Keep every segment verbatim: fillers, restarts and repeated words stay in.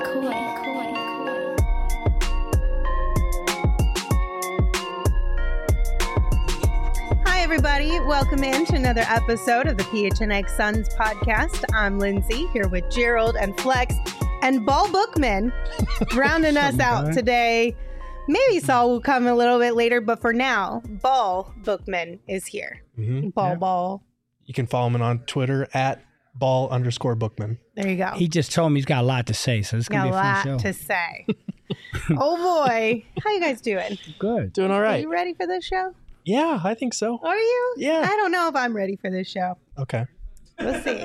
McCoy. Hi, everybody. Welcome in to another episode of the P H N X Suns podcast. I'm Lindsay here with Gerald and Flex and Ball Bookman rounding us out today. Maybe Saul will come a little bit later, but for now, Ball Bookman is here. Mm-hmm. Ball, yeah. ball. You can follow him on Twitter at ball underscore bookman. There you go. He just told me he's got a lot to say, so it's going to be a fun show. Got a lot to say. Oh, boy. How you guys doing? Good. Doing all Are right. you ready for this show? Yeah, I think so. Are you? Yeah. I don't know if I'm ready for this show. Okay. We'll see.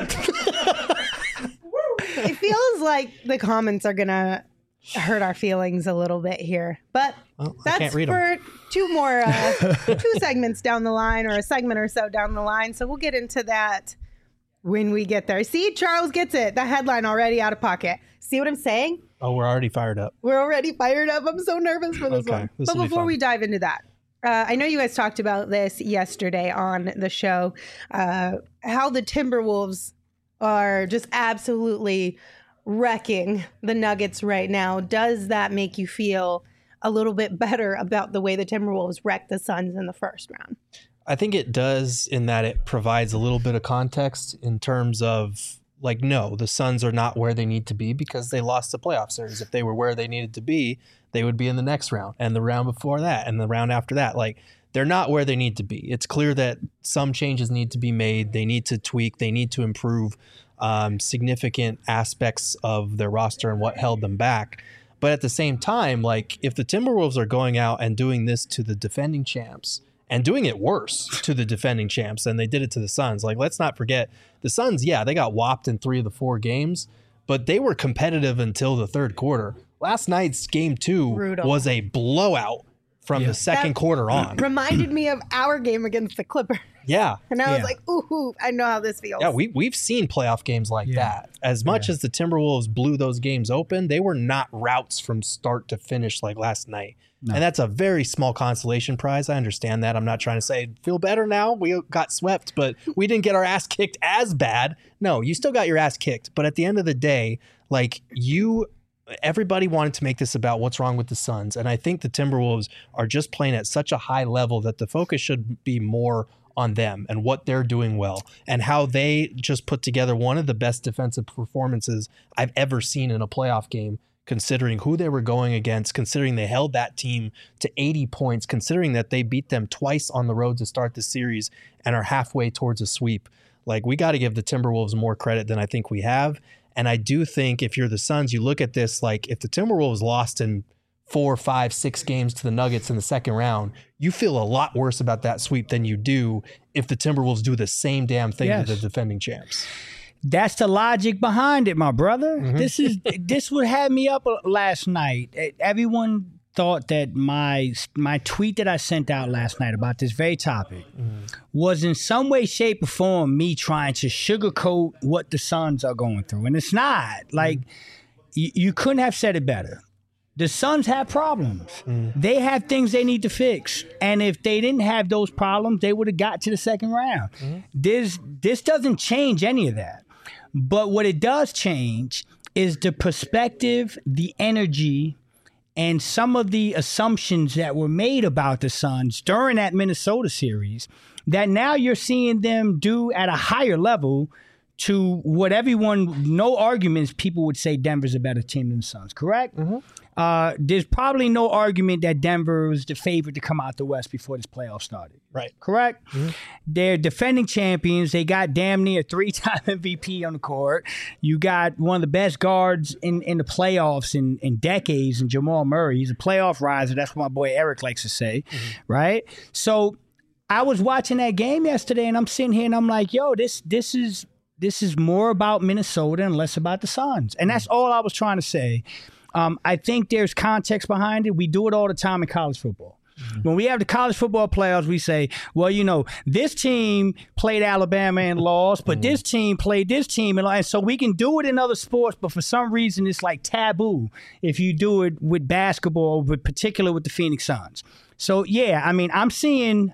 It feels like the comments are going to hurt our feelings a little bit here. But well, I that's can't read for them. two more, uh, two segments down the line, or a segment or so down the line. So we'll get into that when we get there. See, Charles gets it. The headline already out of pocket. See what I'm saying? Oh, we're already fired up. We're already fired up. I'm so nervous for this Okay, one. this But will be before fun. we dive into that, uh, I know you guys talked about this yesterday on the show, uh, how the Timberwolves are just absolutely wrecking the Nuggets right now. Does that make you feel a little bit better about the way the Timberwolves wrecked the Suns in the first round? I think it does, in that it provides a little bit of context in terms of, like, no, the Suns are not where they need to be because they lost the playoff series. If they were where they needed to be, they would be in the next round and the round before that and the round after that. Like, they're not where they need to be. It's clear that some changes need to be made. They need to tweak. They need to improve um, significant aspects of their roster and what held them back. But at the same time, like, if the Timberwolves are going out and doing this to the defending champs and doing it worse to the defending champs than they did it to the Suns, like, let's not forget the Suns, yeah, they got whopped in three of the four games, but they were competitive until the third quarter. Last night's game two Brutal. was a blowout from Yeah. the second That quarter on. Reminded me of our game against the Clippers. Yeah. And I was Yeah. like, ooh, I know how this feels. Yeah, we, we've seen playoff games like Yeah. that. As much Yeah. as the Timberwolves blew those games open, they were not routes from start to finish like last night. No. And that's a very small consolation prize. I understand that. I'm not trying to say, feel better now. We got swept, but we didn't get our ass kicked as bad. No, you still got your ass kicked. But at the end of the day, like, you... everybody wanted to make this about what's wrong with the Suns. And I think the Timberwolves are just playing at such a high level that the focus should be more on them and what they're doing well and how they just put together one of the best defensive performances I've ever seen in a playoff game, considering who they were going against, considering they held that team to eighty points, considering that they beat them twice on the road to start the series and are halfway towards a sweep. Like, we got to give the Timberwolves more credit than I think we have. And I do think if you're the Suns, you look at this, like, if the Timberwolves lost in four, five, six games to the Nuggets in the second round, you feel a lot worse about that sweep than you do if the Timberwolves do the same damn thing Yes. to the defending champs. That's the logic behind it, my brother. Mhm. This is this would have me up last night. Everyone thought that my my tweet that I sent out last night about this very topic Mm. was in some way, shape, or form me trying to sugarcoat what the Suns are going through, and it's not. Like, you, you couldn't have said it better. The Suns have problems. Mm. They have things they need to fix. And if they didn't have those problems, they would have got to the second round. Mm. This this doesn't change any of that. But what it does change is the perspective, the energy, and some of the assumptions that were made about the Suns during that Minnesota series that now you're seeing them do at a higher level to what everyone, no arguments, people would say Denver's a better team than the Suns, correct? Mm-hmm. Uh, there's probably no argument that Denver was the favorite to come out the West before this playoff started. Right. Correct? Mm-hmm. They're defending champions. They got damn near three-time M V P on the court. You got one of the best guards in, in the playoffs in, in decades in Jamal Murray. He's a playoff riser. That's what my boy Eric likes to say, mm-hmm. right? So I was watching that game yesterday, and I'm sitting here, and I'm like, yo, this this is this is more about Minnesota and less about the Suns. And that's all I was trying to say. Um, I think there's context behind it. We do it all the time in college football. Mm-hmm. When we have the college football playoffs, we say, well, you know, this team played Alabama and lost, but mm-hmm. this team played this team. And, and so we can do it in other sports, but for some reason it's like taboo if you do it with basketball, but particularly with the Phoenix Suns. So, yeah, I mean, I'm seeing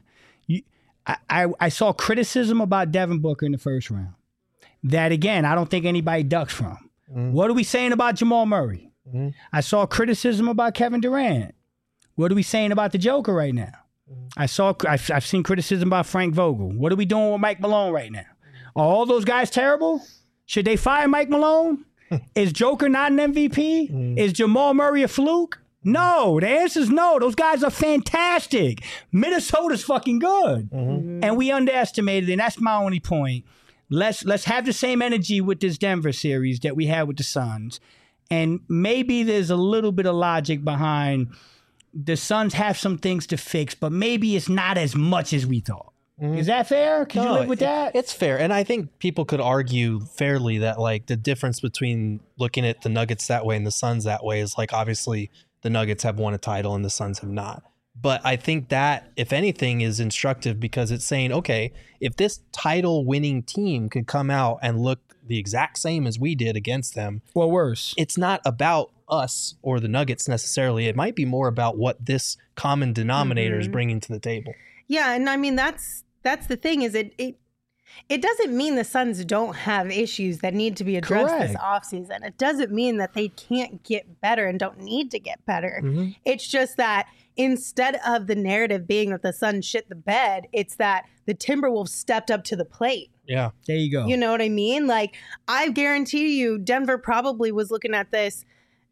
I, I, I saw criticism about Devin Booker in the first round that, again, I don't think anybody ducks from. Mm-hmm. What are we saying about Jamal Murray? Mm-hmm. I saw criticism about Kevin Durant. What are we saying about the Joker right now? I saw, I've, I've seen criticism about Frank Vogel. What are we doing with Mike Malone right now? Are all those guys terrible? Should they fire Mike Malone? Is Joker not an M V P? Mm. Is Jamal Murray a fluke? No. The answer is no. Those guys are fantastic. Minnesota's fucking good. Mm-hmm. And we underestimated it, and that's my only point. Let's let's have the same energy with this Denver series that we had with the Suns. And maybe there's a little bit of logic behind the Suns have some things to fix, but maybe it's not as much as we thought. Mm-hmm. Is that fair? Can no, you live with it, that? It's fair. And I think people could argue fairly that like the difference between looking at the Nuggets that way and the Suns that way is like obviously the Nuggets have won a title and the Suns have not. But I think that, if anything, is instructive because it's saying, okay, if this title winning team could come out and look the exact same as we did against them, or worse, it's not about us or the Nuggets necessarily. It might be more about what this common denominator mm-hmm. is bringing to the table. Yeah, and I mean that's that's the thing is it it it doesn't mean the Suns don't have issues that need to be addressed Correct. This offseason. It doesn't mean that they can't get better and don't need to get better. Mm-hmm. It's just that instead of the narrative being that the Suns shit the bed, it's that the Timberwolves stepped up to the plate. Yeah, there you go. You know what I mean? Like, I guarantee you Denver probably was looking at this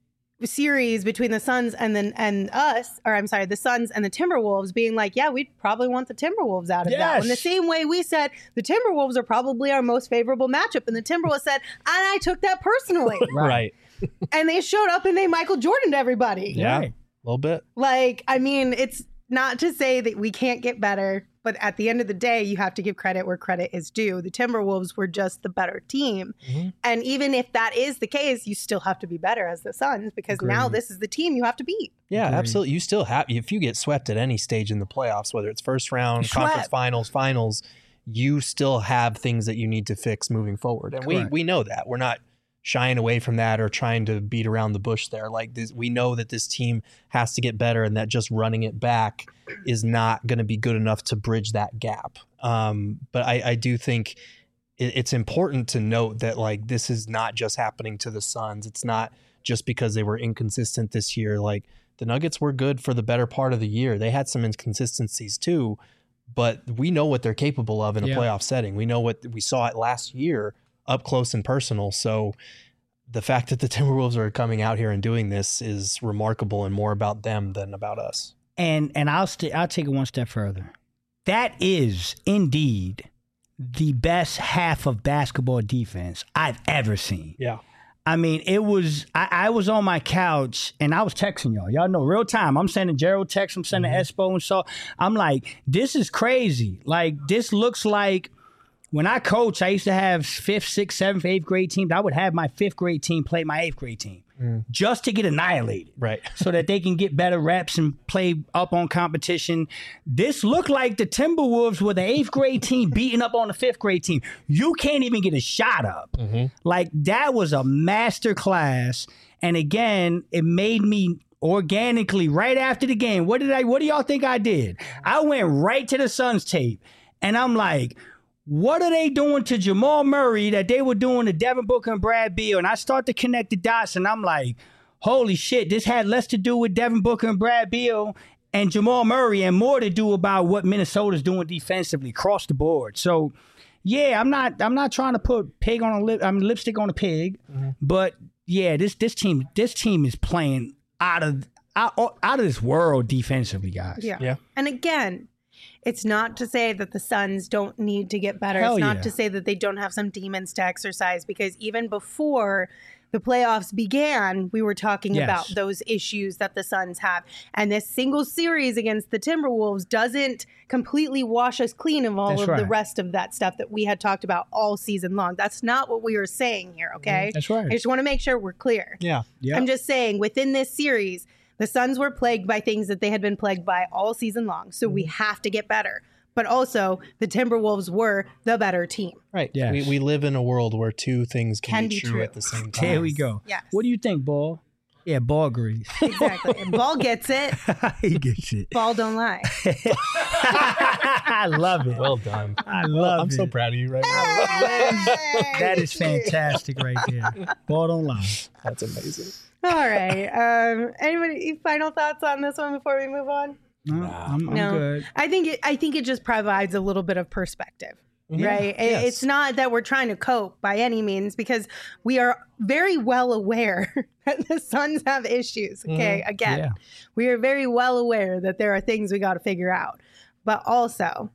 series between the Suns and then and us, or I'm sorry, the Suns and the Timberwolves being like, yeah, we'd probably want the Timberwolves out of yes. that. In the same way we said the Timberwolves are probably our most favorable matchup, and the Timberwolves said, and I took that personally. Right. And they showed up and they Michael Jordan'd everybody. Yeah, right. A little bit. Like, I mean, it's not to say that we can't get better, but at the end of the day, you have to give credit where credit is due. The Timberwolves were just the better team. Mm-hmm. And even if that is the case, you still have to be better as the Suns because Agreed. Now this is the team you have to beat. Yeah, Agreed. Absolutely. You still have, if you get swept at any stage in the playoffs, whether it's first round, Swept. conference finals, finals, you still have things that you need to fix moving forward. And we, we know that. We're not shying away from that or trying to beat around the bush there. Like this, we know that this team has to get better and that just running it back is not going to be good enough to bridge that gap. Um, but I, I do think it, it's important to note that like this is not just happening to the Suns. It's not just because they were inconsistent this year. Like the Nuggets were good for the better part of the year. They had some inconsistencies too, but we know what they're capable of in a yeah. playoff setting. We know what we saw it last year up close and personal. So the fact that the Timberwolves are coming out here and doing this is remarkable and more about them than about us. And and I'll st- I'll take it one step further. That is indeed the best half of basketball defense I've ever seen. Yeah. I mean, it was, I, I was on my couch and I was texting y'all. Y'all know real time. I'm sending Gerald texts. I'm sending mm-hmm. Espo and so I'm like, this is crazy. Like, this looks like, when I coach, I used to have fifth, sixth, seventh, eighth grade teams. I would have my fifth grade team play my eighth grade team mm. just to get annihilated. Right. So that they can get better reps and play up on competition. This looked like the Timberwolves were the eighth grade team beating up on the fifth grade team. You can't even get a shot up. Mm-hmm. Like, that was a master class. And again, it made me organically, right after the game, what did I, what do y'all think I did? I went right to the Suns tape and I'm like, what are they doing to Jamal Murray that they were doing to Devin Booker and Brad Beal? And I start to connect the dots, and I'm like, holy shit, this had less to do with Devin Booker and Brad Beal and Jamal Murray and more to do about what Minnesota's doing defensively across the board. So, yeah, I'm not I'm not trying to put pig on a lip, I mean, lipstick on a pig, mm-hmm. but yeah, this this team this team is playing out of out, out of this world defensively, guys. Yeah. yeah. And again, it's not to say that the Suns don't need to get better. Hell it's not yeah. to say that they don't have some demons to exercise, because even before the playoffs began, we were talking yes. about those issues that the Suns have. And this single series against the Timberwolves doesn't completely wash us clean of all That's of right. the rest of that stuff that we had talked about all season long. That's not what we were saying here, okay? That's right. I just want to make sure we're clear. Yeah. Yep. I'm just saying, within this series, the Suns were plagued by things that they had been plagued by all season long. So we have to get better. But also, the Timberwolves were the better team. Right. Yes. We, we live in a world where two things can, Can be, be true, true. at the same time. There we go. Yes. What do you think, Ball? Yeah, Ball agrees. Exactly. And Ball gets it. He gets it. Ball don't lie. I love it. Well done. I love I'm it. so proud of you right now. That is fantastic right there. Ball don't lie. That's amazing. All right. Um, anybody final thoughts on this one before we move on? No, I'm, I'm No. good. I think it, I think it just provides a little bit of perspective. Yeah, Right. It- yes. It's not that we're trying to cope by any means, because we are very well aware that the Suns have issues. Okay. Mhm. Again, Yeah. we are very well aware that there are things we got to figure out. But also,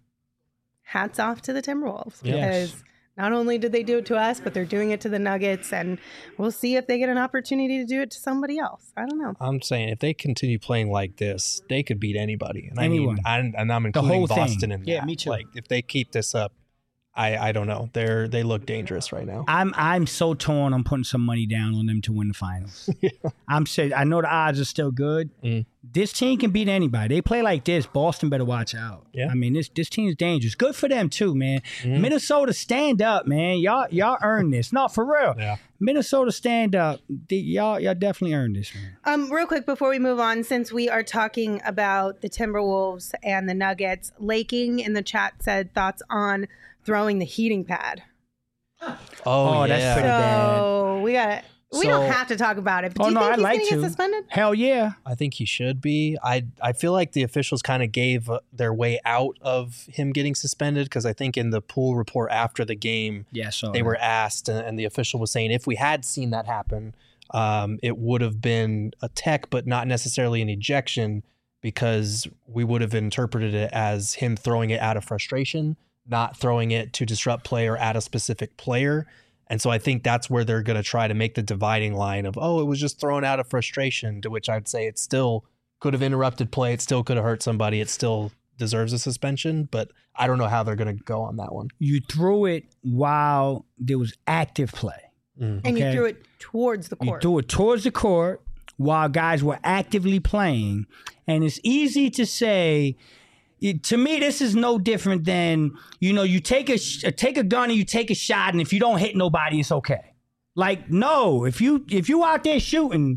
hats off to the Timberwolves, Yes. because not only did they do it to us, but they're doing it to the Nuggets. And we'll see if they get an opportunity to do it to somebody else. I don't know. I'm saying if they continue playing like this, they could beat anybody. And Anyone. I mean, I, and I'm including whole thing. Boston in Yeah, that. me too. Like if they keep this up, I I don't know. They're they look dangerous right now. I'm I'm so torn. I'm putting some money down on them to win the finals. I'm saying I know the odds are still good. Mm. This team can beat anybody. They play like this. Boston better watch out. Yeah. I mean this this team's dangerous. Good for them too, man. Mhm. Minnesota, stand up, man. Y'all y'all earned this. No, for real. Yeah. Minnesota, stand up. The- y'all y'all definitely earned this, man. Um, real quick before we move on, since we are talking about the Timberwolves and the Nuggets, Laking in the chat said thoughts on throwing the heating pad. Oh, Oh, yeah. that's pretty bad. So we got we So- don't have to talk about it. But Oh, do you no, think I'd he's like gonna to. get suspended? Hell yeah. I think he should be. I I feel like the officials kind of gave uh, their way out of him getting suspended, because I think in the pool report after the game, Yeah, so they were asked, and, and the official was saying if we had seen that happen, um, it would have been a tech, but not necessarily an ejection, because we would have interpreted it as him throwing it out of frustration, not throwing it to disrupt play or at a specific player. And so I think that's where they're going to try to make the dividing line of, oh, it was just thrown out of frustration, to which I'd say it still could have interrupted play. It still could have hurt somebody. It still deserves a suspension, but I don't know how they're going to go on that one. you threw it while there was active play. Mm. And you Okay. threw it towards the You court. threw it towards the court while guys were actively playing. And it's easy to say, it- to me, this is no different than, you know, you take a sh- take a gun and you take a shot, and if you don't hit nobody, it's okay. Like, no, if you if you out there shooting,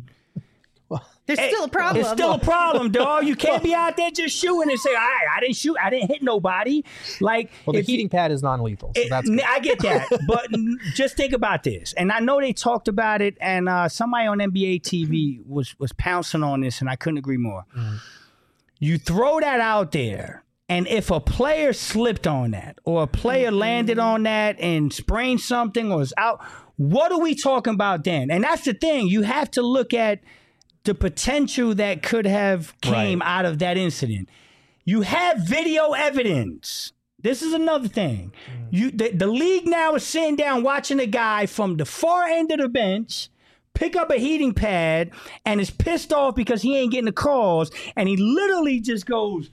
There's hey, still a problem. it's still a problem, dog. You can't be out there just shooting and say, all right, I didn't shoot, I didn't hit nobody. Like, Well, the if you- heating pad is non-lethal, so It- that's n- good. I get that, but n- just think about this. And I know they talked about it, and uh, somebody on N B A T V was was pouncing on this, and I couldn't agree more. Mm. You throw that out there, and if a player slipped on that, or a player landed on that and sprained something, or is out, what are we talking about then? And that's the thing. You have to look at the potential that could have came Right. out of that incident. You have video evidence. This is another thing. You the, the league now is sitting down watching a guy from the far end of the bench pick up a heating pad and is pissed off because he ain't getting the calls, and he literally just goes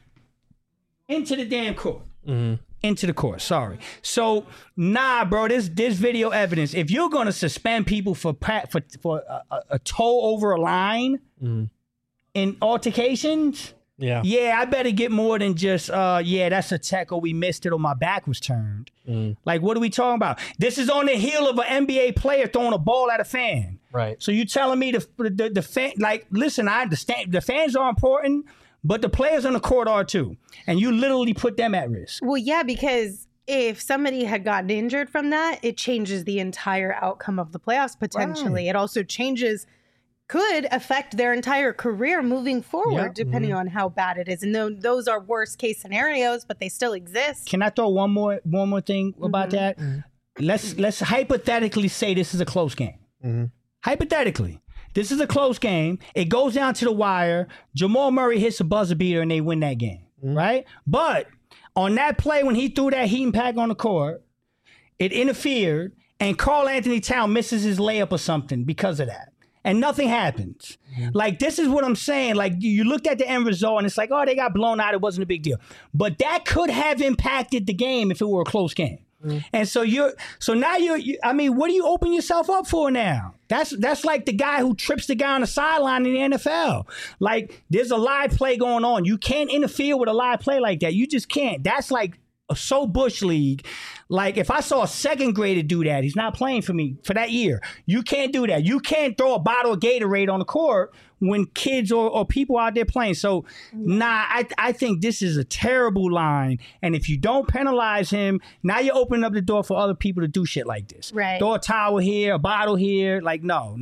into the damn court. Mhm. Into the court, sorry. So, nah, bro, this this video evidence. If you're gonna suspend people for pa- for for a, a, a toe over a line Mhm. in altercations, Yeah. yeah, I better get more than just, uh, yeah, that's a tech, or we missed it, or my back was turned. Mm. Like, what are we talking about? This is on the heel of an N B A player throwing a ball at a fan. Right. So you telling me the the, the fan, like, listen, I understand the fans are important, but the players on the court are too, and you literally put them at risk. Well, yeah, because if somebody had gotten injured from that, it changes the entire outcome of the playoffs potentially. It also changes, could affect their entire career moving forward, Yeah. depending on how bad it is. And tho- those are worst case scenarios, but they still exist. Can I throw one more one more thing about that? Let's let's hypothetically say this is a close game. Mhm. Hypothetically, this is a close game. It goes down to the wire. Jamal Murray hits a buzzer beater and they win that game, right? But on that play when he threw that heating pad on the court, it interfered, and Karl Anthony Towns misses his layup or something because of that. And nothing happens. Like, this is what I'm saying. Like, you you looked at the end result and it's like, oh, they got blown out. It wasn't a big deal. But that could have impacted the game if it were a close game. And so you're, so now you're, you, I mean, what do you open yourself up for now? That's that's like the guy who trips the guy on the sideline in the N F L. Like, there's a live play going on. You can't interfere with a live play like that. You just can't. That's like a so Bush League. Like, if I saw a second grader do that, he's not playing for me for that year. You can't do that. You can't throw a bottle of Gatorade on the court when kids or, or people out there playing. So, nah, I, I think this is a terrible line. And if you don't penalize him, now you're opening up the door for other people to do shit like this. Right. Throw a towel here, a bottle here. Like, no, no, no.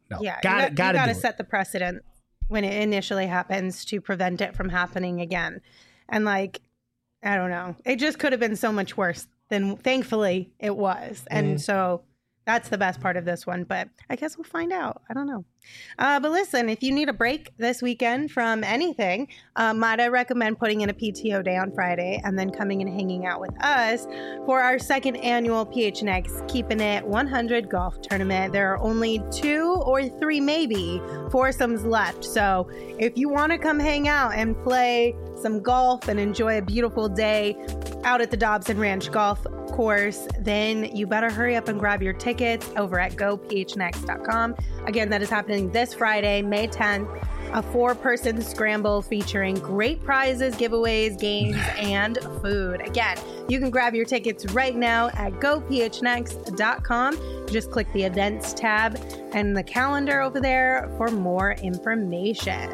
no. Yeah, Got you it. Got to to set the precedent when it initially happens to prevent it from happening again. And like, I don't know, it just could have been so much worse than thankfully it was. And Mhm. so that's the best part of this one, but I guess we'll find out. I don't know. Uh, but listen, if you need a break this weekend from anything, uh, might I recommend putting in a P T O day on Friday and then coming and hanging out with us for our second annual P H N X Keeping It one hundred golf tournament. There are only two or three, maybe, foursomes left. So if you want to come hang out and play some golf and enjoy a beautiful day out at the Dobson Ranch Golf Course, then you better hurry up and grab your tickets over at go p h n x dot com. Again, that is happening this Friday, May tenth, a four-person scramble featuring great prizes, giveaways, games, and food. Again, you can grab your tickets right now at go p h n x dot com. Just click the events tab and the calendar over there for more information.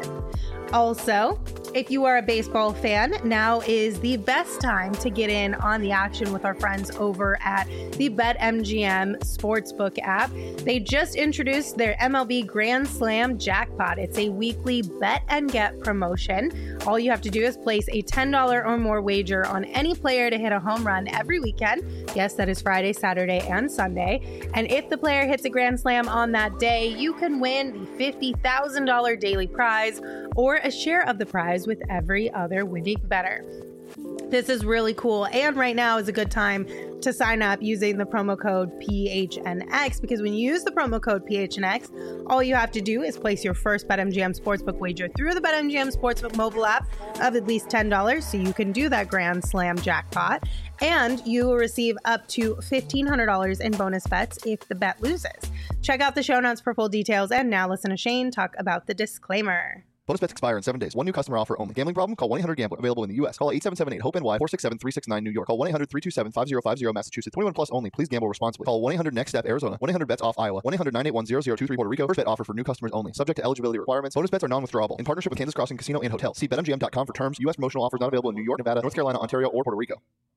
Also, if you are a baseball fan, now is the best time to get in on the action with our friends over at the BetMGM Sportsbook app. They just introduced their M L B Grand Slam Jackpot. It's a weekly bet and get promotion. All you have to do is place a ten dollars or more wager on any player to hit a home run every weekend. Yes, that is Friday, Saturday, and Sunday. And if the player hits a Grand Slam on that day, you can win the fifty thousand dollars daily prize or a share of the prize with every other winning bettor. This is really cool, and right now is a good time to sign up using the promo code P H N X, because when you use the promo code P H N X, all you have to do is place your first BetMGM Sportsbook wager through the BetMGM Sportsbook mobile app of at least ten dollars, so you can do that Grand Slam jackpot, and you will receive up to fifteen hundred dollars in bonus bets if the bet loses. Check out the show notes for full details, and now listen to Shane talk about the disclaimer. Bonus bets expire in seven days. One new customer offer only. Gambling problem? Call one eight hundred gambler. Available in the U S. Call eight seven seven eight hope N Y four six seven three six nine New York. Call one eight hundred three two seven five zero five zero Massachusetts. twenty-one plus only. Please gamble responsibly. Call one eight hundred next step Arizona. one eight hundred bets off Iowa. one eight hundred nine eight one zero zero two three Puerto Rico. First bet offer for new customers only. Subject to eligibility requirements. Bonus bets are non-withdrawable. In partnership with Kansas Crossing Casino and Hotel. See bet M G M dot com for terms. U S promotional offers not available in New York, Nevada, North Carolina, Ontario, or Puerto Rico.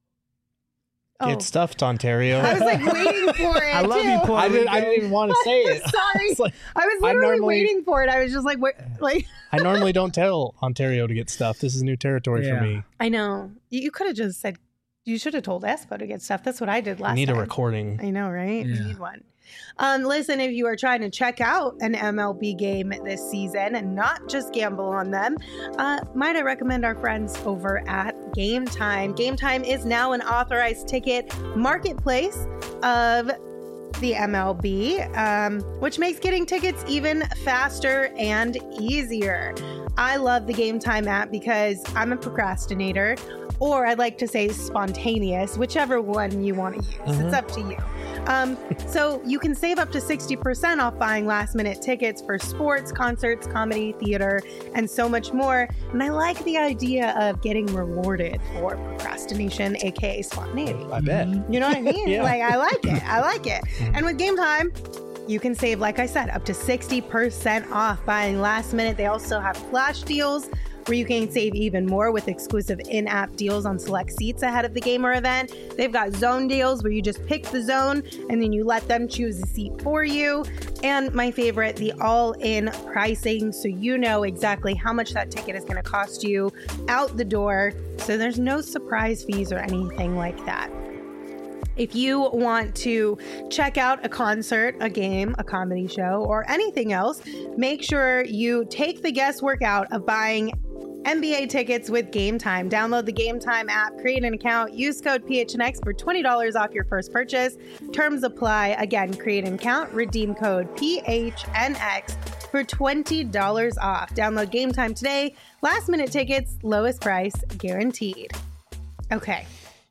Get Oh. stuffed, Ontario. I was like waiting for it. I love too. you, Puerto I didn't. I Rico. didn't even want to say it. Sorry. It's like, I was I literally normally- waiting for it. I was just like, wait, like I normally don't tell Ontario to get stuffed. This is new territory Yeah. for me. I know. You, you could have just said, you should have told Espo to get stuff. That's what I did last I need time. a recording. I know, right? Yeah. We need one. Um, listen, if you are trying to check out an M L B game this season and not just gamble on them, uh, might I recommend our friends over at Game Time. Game Time is now an authorized ticket marketplace of the M L B, um, which makes getting tickets even faster and easier. I love the Game Time app because I'm a procrastinator, or I'd like to say spontaneous, whichever one you want to use. Mhm. It's up to you. Um, so you can save up to sixty percent off buying last minute tickets for sports, concerts, comedy, theater, and so much more. And I like the idea of getting rewarded for procrastination, aka spontaneity. I bet. You know what I mean? Yeah. Like, I like it. I like it. And with Game Time, you can save, like I said, up to sixty percent off buying last minute. They also have flash deals where you can save even more with exclusive in-app deals on select seats ahead of the game or event. They've got zone deals where you just pick the zone and then you let them choose a seat for you. And my favorite, the all-in pricing, so you know exactly how much that ticket is going to cost you out the door. So there's no surprise fees or anything like that. If you want to check out a concert, a game, a comedy show, or anything else, make sure you take the guesswork out of buying N B A tickets with Game Time. Download the Game Time app, create an account, use code P H N X for twenty dollars off your first purchase. Terms apply. Again, create an account, redeem code P H N X for twenty dollars off. Download Game Time today. Last minute tickets, lowest price guaranteed. Okay.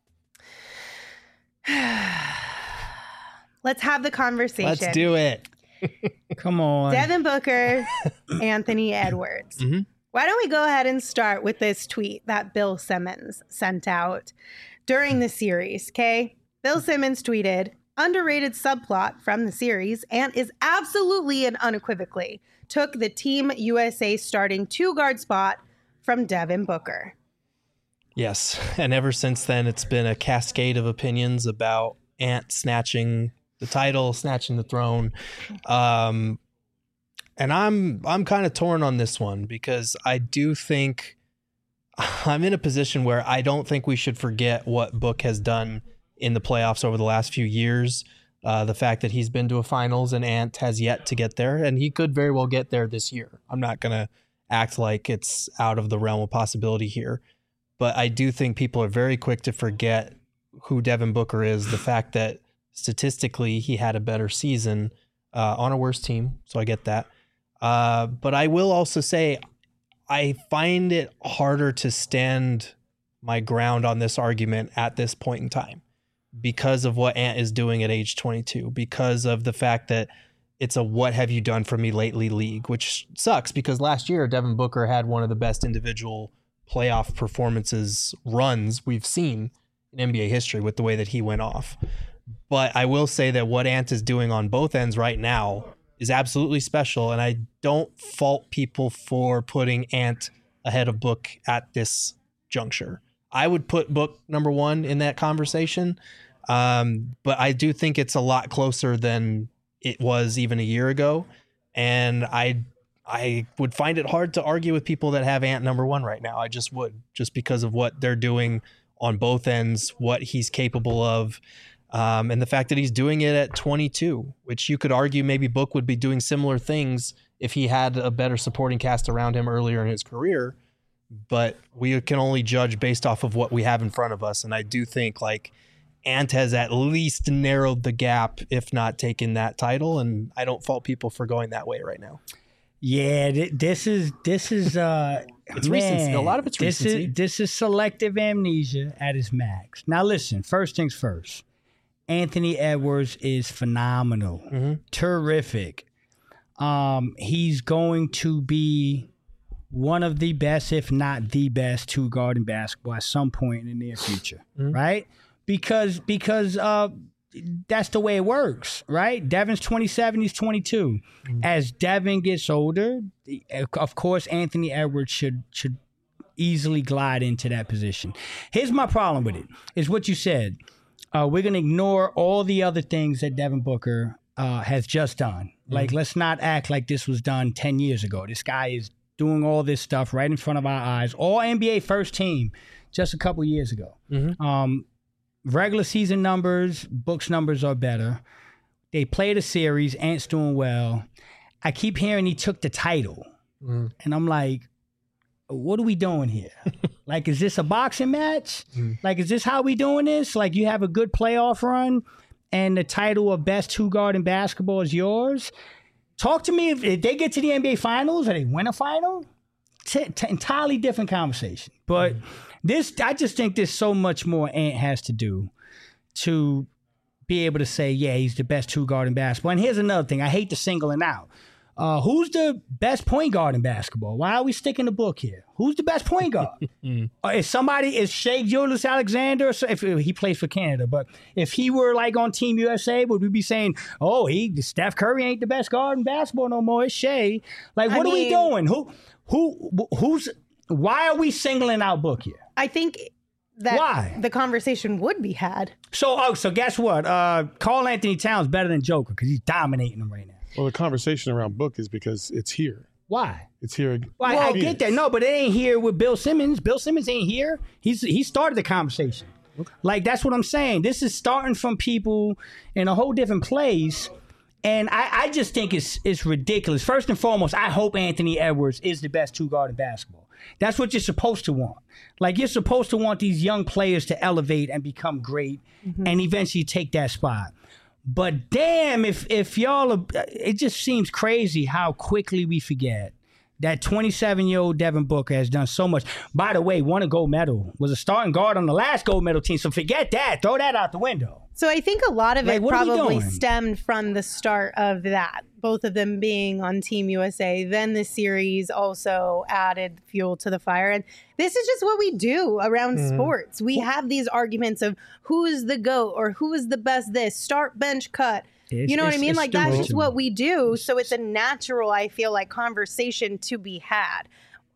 Let's have the conversation. Let's do it. Come on. Devin Booker, Anthony Edwards. Mhm. Why don't we go ahead and start with this tweet that Bill Simmons sent out during the series, okay? Bill Simmons tweeted, underrated subplot from the series, and is absolutely and unequivocally took the Team U S A starting two-guard spot from Devin Booker. Yes. And ever since then, it's been a cascade of opinions about Ant snatching the title, snatching the throne. Um, And I'm I'm kind of torn on this one because I do think I'm in a position where I don't think we should forget what Book has done in the playoffs over the last few years. Uh, the fact that he's been to a finals and Ant has yet to get there, and he could very well get there this year. I'm not going to act like it's out of the realm of possibility here. But I do think people are very quick to forget who Devin Booker is, the fact that statistically he had a better season uh, on a worse team, so I get that. Uh, but I will also say I find it harder to stand my ground on this argument at this point in time because of what Ant is doing at age twenty-two, because of the fact that it's a what have you done for me lately league, which sucks because last year Devin Booker had one of the best individual playoff performances runs we've seen in N B A history with the way that he went off. But I will say that what Ant is doing on both ends right now is absolutely special, and I don't fault people for putting Ant ahead of Book at this juncture. I would put Book number one in that conversation, um, but I do think it's a lot closer than it was even a year ago, and I I would find it hard to argue with people that have Ant number one right now. I just would, just because of what they're doing on both ends, what he's capable of. Um, and the fact that he's doing it at twenty-two, which you could argue maybe Book would be doing similar things if he had a better supporting cast around him earlier in his career. But we can only judge based off of what we have in front of us. And I do think like Ant has at least narrowed the gap, if not taken that title. And I don't fault people for going that way right now. Yeah, th- this is this is uh it's man, recency. A lot of it's this recency. Is, this is selective amnesia at its max. Now listen, first things first. Anthony Edwards is phenomenal. Mm-hmm. Terrific. Um, he's going to be one of the best, if not the best, two guard in basketball at some point in the near future, mm-hmm. right? Because because uh, that's the way it works, right? Devin's twenty-seven, he's twenty-two. Mm-hmm. As Devin gets older, of course, Anthony Edwards should should easily glide into that position. Here's my problem with it, is what you said. Uh, we're going to ignore all the other things that Devin Booker uh, has just done. Mm-hmm. Like, let's not act like this was done ten years ago. This guy is doing all this stuff right in front of our eyes. All N B A first team just a couple years ago. Mm-hmm. Um, regular season numbers, Book's numbers are better. They played a series. Ant's doing well. I keep hearing he took the title. Mm-hmm. And I'm like, what are we doing here? Like, is this a boxing match? Mm. Like, is this how we doing this? Like, you have a good playoff run and the title of best two guard in basketball is yours? Talk to me if, if they get to the N B A finals or they win a final. T- t- entirely different conversation. But mm. this, I just think there's so much more Ant has to do to be able to say, yeah, he's the best two guard in basketball. And here's another thing. I hate to single him out. Uh, who's the best point guard in basketball? Why are we sticking the Book here? Who's the best point guard? mm. uh, is somebody, is Shai Gilgeous-Alexander, so if, if he plays for Canada, but if he were like on Team U S A, would we be saying, oh, he Steph Curry ain't the best guard in basketball no more, it's Shai. Like, what I are mean, we doing? Who, who, who's, why are we singling out Book here? I think that Why? the conversation would be had. So, oh, so guess what? Uh, Karl Anthony Towns better than Joker because he's dominating them right now. Well, the conversation around Book is because it's here. Why? It's here. Well, I, I get that. No, but it ain't here with Bill Simmons. Bill Simmons ain't here. He's he started the conversation. Okay. Like, that's what I'm saying. This is starting from people in a whole different place. And I, I just think it's it's ridiculous. First and foremost, I hope Anthony Edwards is the best two guard in basketball. That's what you're supposed to want. Like, you're supposed to want these young players to elevate and become great mm-hmm. and eventually take that spot. But damn, if if y'all, are, it just seems crazy how quickly we forget that twenty-seven-year-old Devin Booker has done so much. By the way, won a gold medal, was a starting guard on the last gold medal team. So forget that. Throw that out the window. So I think a lot of like, it probably stemmed from the start of that, both of them being on Team U S A. Then the series also added fuel to the fire. And this is just what we do around mm. sports. We have these arguments of who's the GOAT or who is the best this, start, bench, cut. It's, you know what I mean? Like, that's just what we do. So it's a natural, I feel like, conversation to be had.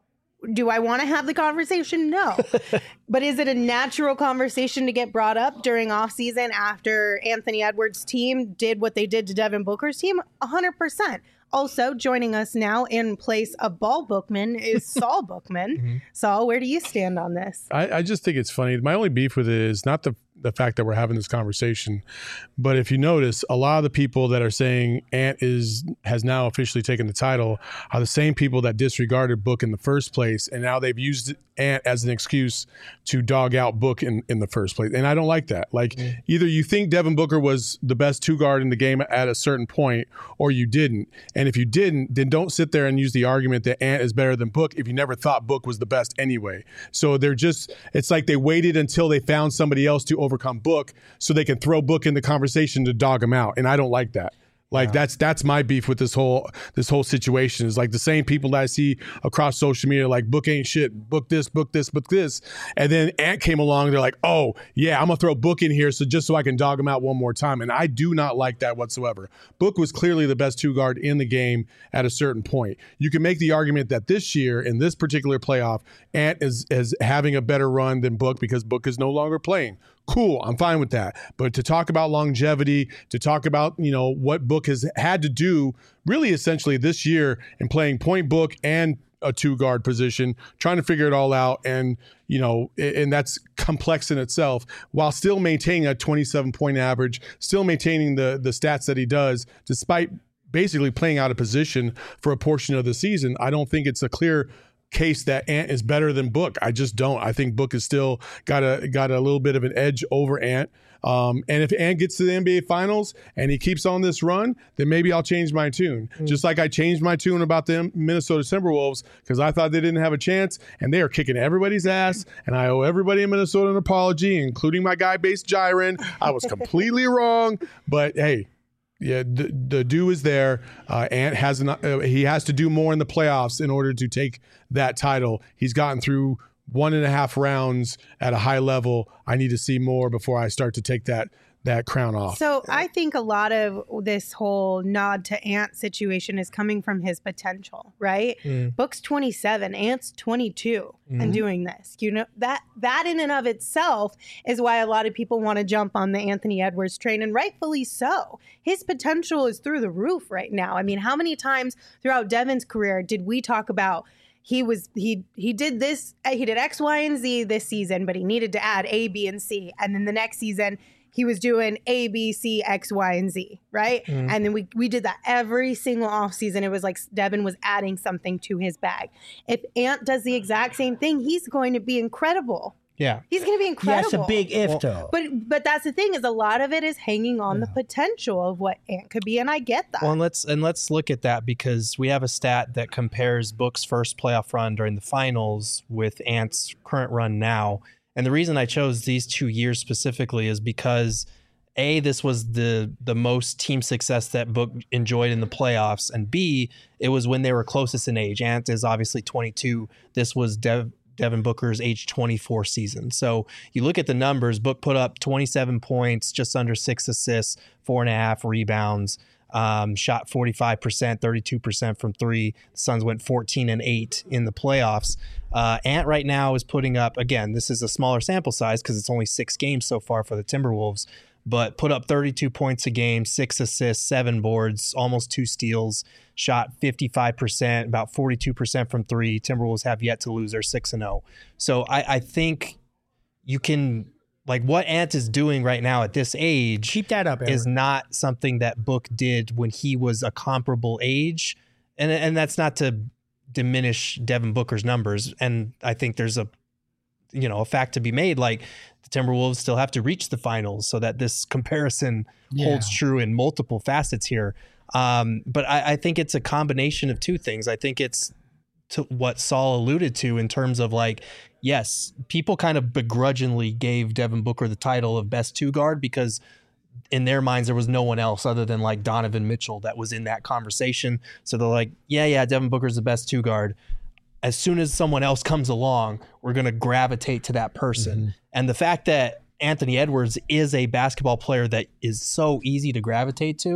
Do I want to have the conversation? No. But is it a natural conversation to get brought up during offseason after Anthony Edwards' team did what they did to Devin Booker's team? one hundred percent. Also, joining us now in place of Ball Bookman is Saul Bookman. Mm-hmm. Saul, where do you stand on this? I, I just think it's funny. My only beef with it is not the the fact that we're having this conversation, but if you notice, a lot of the people that are saying Ant is has now officially taken the title are the same people that disregarded Book in the first place, and now they've used Ant as an excuse to dog out Book in, in the first place. And I don't like that. Like, mm. either you think Devin Booker was the best two guard in the game at a certain point, or you didn't. And if you didn't, then don't sit there and use the argument that Ant is better than Book if you never thought Book was the best anyway. So they're just, it's like they waited until they found somebody else to overcome Book so they can throw Book in the conversation to dog him out. And I don't like that. Like, yeah. that's that's my beef with this whole this whole situation. Is like the same people that I see across social media, like, Book ain't shit, Book this, Book this, Book this. And then Ant came along, they're like, oh, yeah, I'm going to throw Book in here so just so I can dog him out one more time. And I do not like that whatsoever. Book was clearly the best two guard in the game at a certain point. You can make the argument that this year, in this particular playoff, Ant is, is having a better run than Book because Book is no longer playing. Cool, I'm fine with that. But to talk about longevity, to talk about, you know, what Book has had to do really essentially this year in playing point Book and a two guard position, trying to figure it all out. And, you know, and that's complex in itself, while still maintaining a twenty-seven point average, still maintaining the, the stats that he does, despite basically playing out of position for a portion of the season. I don't think it's a clear case that Ant is better than Book. I just don't. I think Book has still got a got a little bit of an edge over Ant. Um, and if Ant gets to the N B A Finals and he keeps on this run, then maybe I'll change my tune. Mm. Just like I changed my tune about the Minnesota Timberwolves because I thought they didn't have a chance, and they are kicking everybody's ass. And I owe everybody in Minnesota an apology, including my guy, Base Jiren. I was completely wrong, but hey. Yeah, the, the due is there. Uh, Ant has an, uh, he has to do more in the playoffs in order to take that title. He's gotten through one and a half rounds at a high level. I need to see more before I start to take that that crown off. So I think a lot of this whole nod to Ant situation is coming from his potential, right? Mm. Book's twenty-seven, Ant's twenty-two, mm-hmm. and doing this. You know, that that in and of itself is why a lot of people want to jump on the Anthony Edwards train, and rightfully so. His potential is through the roof right now. I mean, how many times throughout Devin's career did we talk about He was he he did this, he did X, Y, and Z this season, but he needed to add A, B, and C. And then the next season, he was doing A, B, C, X, Y, and Z, right? Mm-hmm. And then we we did that every single offseason. It was like Devin was adding something to his bag. If Ant does the exact same thing, he's going to be incredible. Yeah. He's going to be incredible. That's a big if, well, though. But but that's the thing, is a lot of it is hanging on yeah. the potential of what Ant could be, and I get that. Well, and let's and let's look at that, because we have a stat that compares Book's first playoff run during the finals with Ant's current run now. And the reason I chose these two years specifically is because, A, this was the the most team success that Book enjoyed in the playoffs, and B, it was when they were closest in age. Ant is obviously twenty-two. This was Dev, Devin Booker's age twenty-four season. So you look at the numbers, Book put up twenty-seven points, just under six assists, four and a half rebounds, um, shot forty-five percent, thirty-two percent from three. The Suns went fourteen and eight in the playoffs. Uh, Ant right now is putting up, again, this is a smaller sample size because it's only six games so far for the Timberwolves, but put up thirty-two points a game, six assists, seven boards, almost two steals, shot fifty-five percent, about forty-two percent from three. Timberwolves have yet to lose. They're six and oh. So I, I think you can, like, what Ant is doing right now at this age, keep that up, Eric. Is not something that Book did when he was a comparable age. And, and that's not to diminish Devin Booker's numbers. And I think there's a, you know, a fact to be made, like, the Timberwolves still have to reach the finals, so that this comparison yeah. holds true in multiple facets here. Um, but I, I think it's a combination of two things. I think it's to what Saul alluded to in terms of, like, yes, people kind of begrudgingly gave Devin Booker the title of best two guard because in their minds there was no one else other than, like, Donovan Mitchell that was in that conversation. So they're like, yeah, yeah, Devin Booker's the best two guard. As soon as someone else comes along, we're going to gravitate to that person. Mm-hmm. And the fact that Anthony Edwards is a basketball player that is so easy to gravitate to,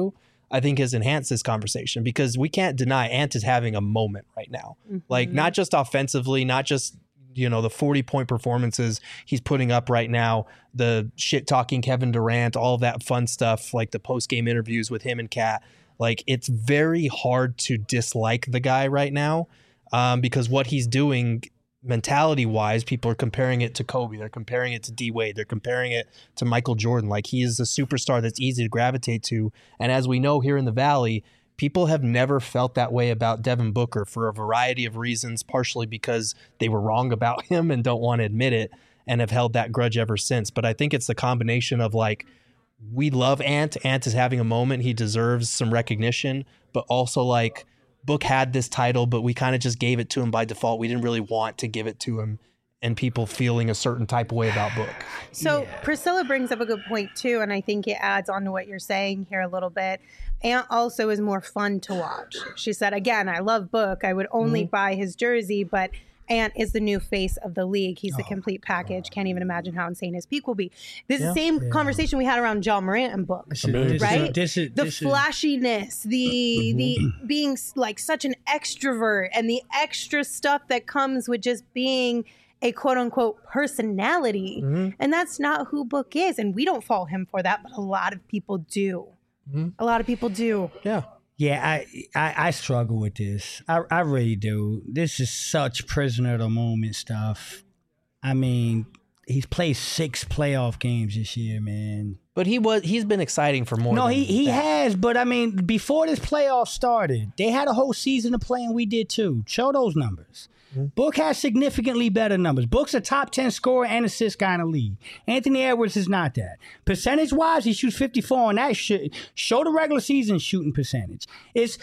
I think has enhanced this conversation, because we can't deny Ant is having a moment right now. Mm-hmm. Like, not just offensively, not just, you know, the forty point performances he's putting up right now, the shit talking Kevin Durant, all of that fun stuff, like the post game interviews with him and Kat. Like, it's very hard to dislike the guy right now, um, because what he's doing mentality wise, people are comparing it to Kobe. They're comparing it to D Wade. They're comparing it to Michael Jordan. Like, he is a superstar that's easy to gravitate to. And as we know here in the Valley, people have never felt that way about Devin Booker for a variety of reasons, partially because they were wrong about him and don't want to admit it and have held that grudge ever since. But I think it's the combination of, like, we love Ant. Ant is having a moment. He deserves some recognition, but also, like, Book had this title, but we kind of just gave it to him by default. We didn't really want to give it to him, and people feeling a certain type of way about Book. So Yeah. Priscilla brings up a good point too, and I think it adds on to what you're saying here a little bit. Ant also is more fun to watch. She said, again, I love Book. I would only Mm-hmm. buy his jersey, but Ant is the new face of the league. He's the Oh, complete package. Can't even imagine how insane his peak will be. This is Yeah. the same Yeah. conversation we had around John Morant and Book. This is- Amazing. this is- Right? This is The this is- flashiness, the the being s- like such an extrovert, and the extra stuff that comes with just being a quote unquote personality. Mm-hmm. And that's not who Book is. And we don't follow him for that, but a lot of people do. Mhm. A lot of people do. Yeah. Yeah, I, I I struggle with this. I I really do. This is such prisoner of the moment stuff. I mean, he's played six playoff games this year, man. But he was he's been exciting for more No, than he he that. has, but I mean, before this playoff started, they had a whole season of play, and we did too. Show those numbers. Book has significantly better numbers. Book's a top ten scorer and assist guy in the league. Anthony Edwards is not that. Percentage wise, he shoots fifty-four on that shit. Show the regular season shooting percentage. It's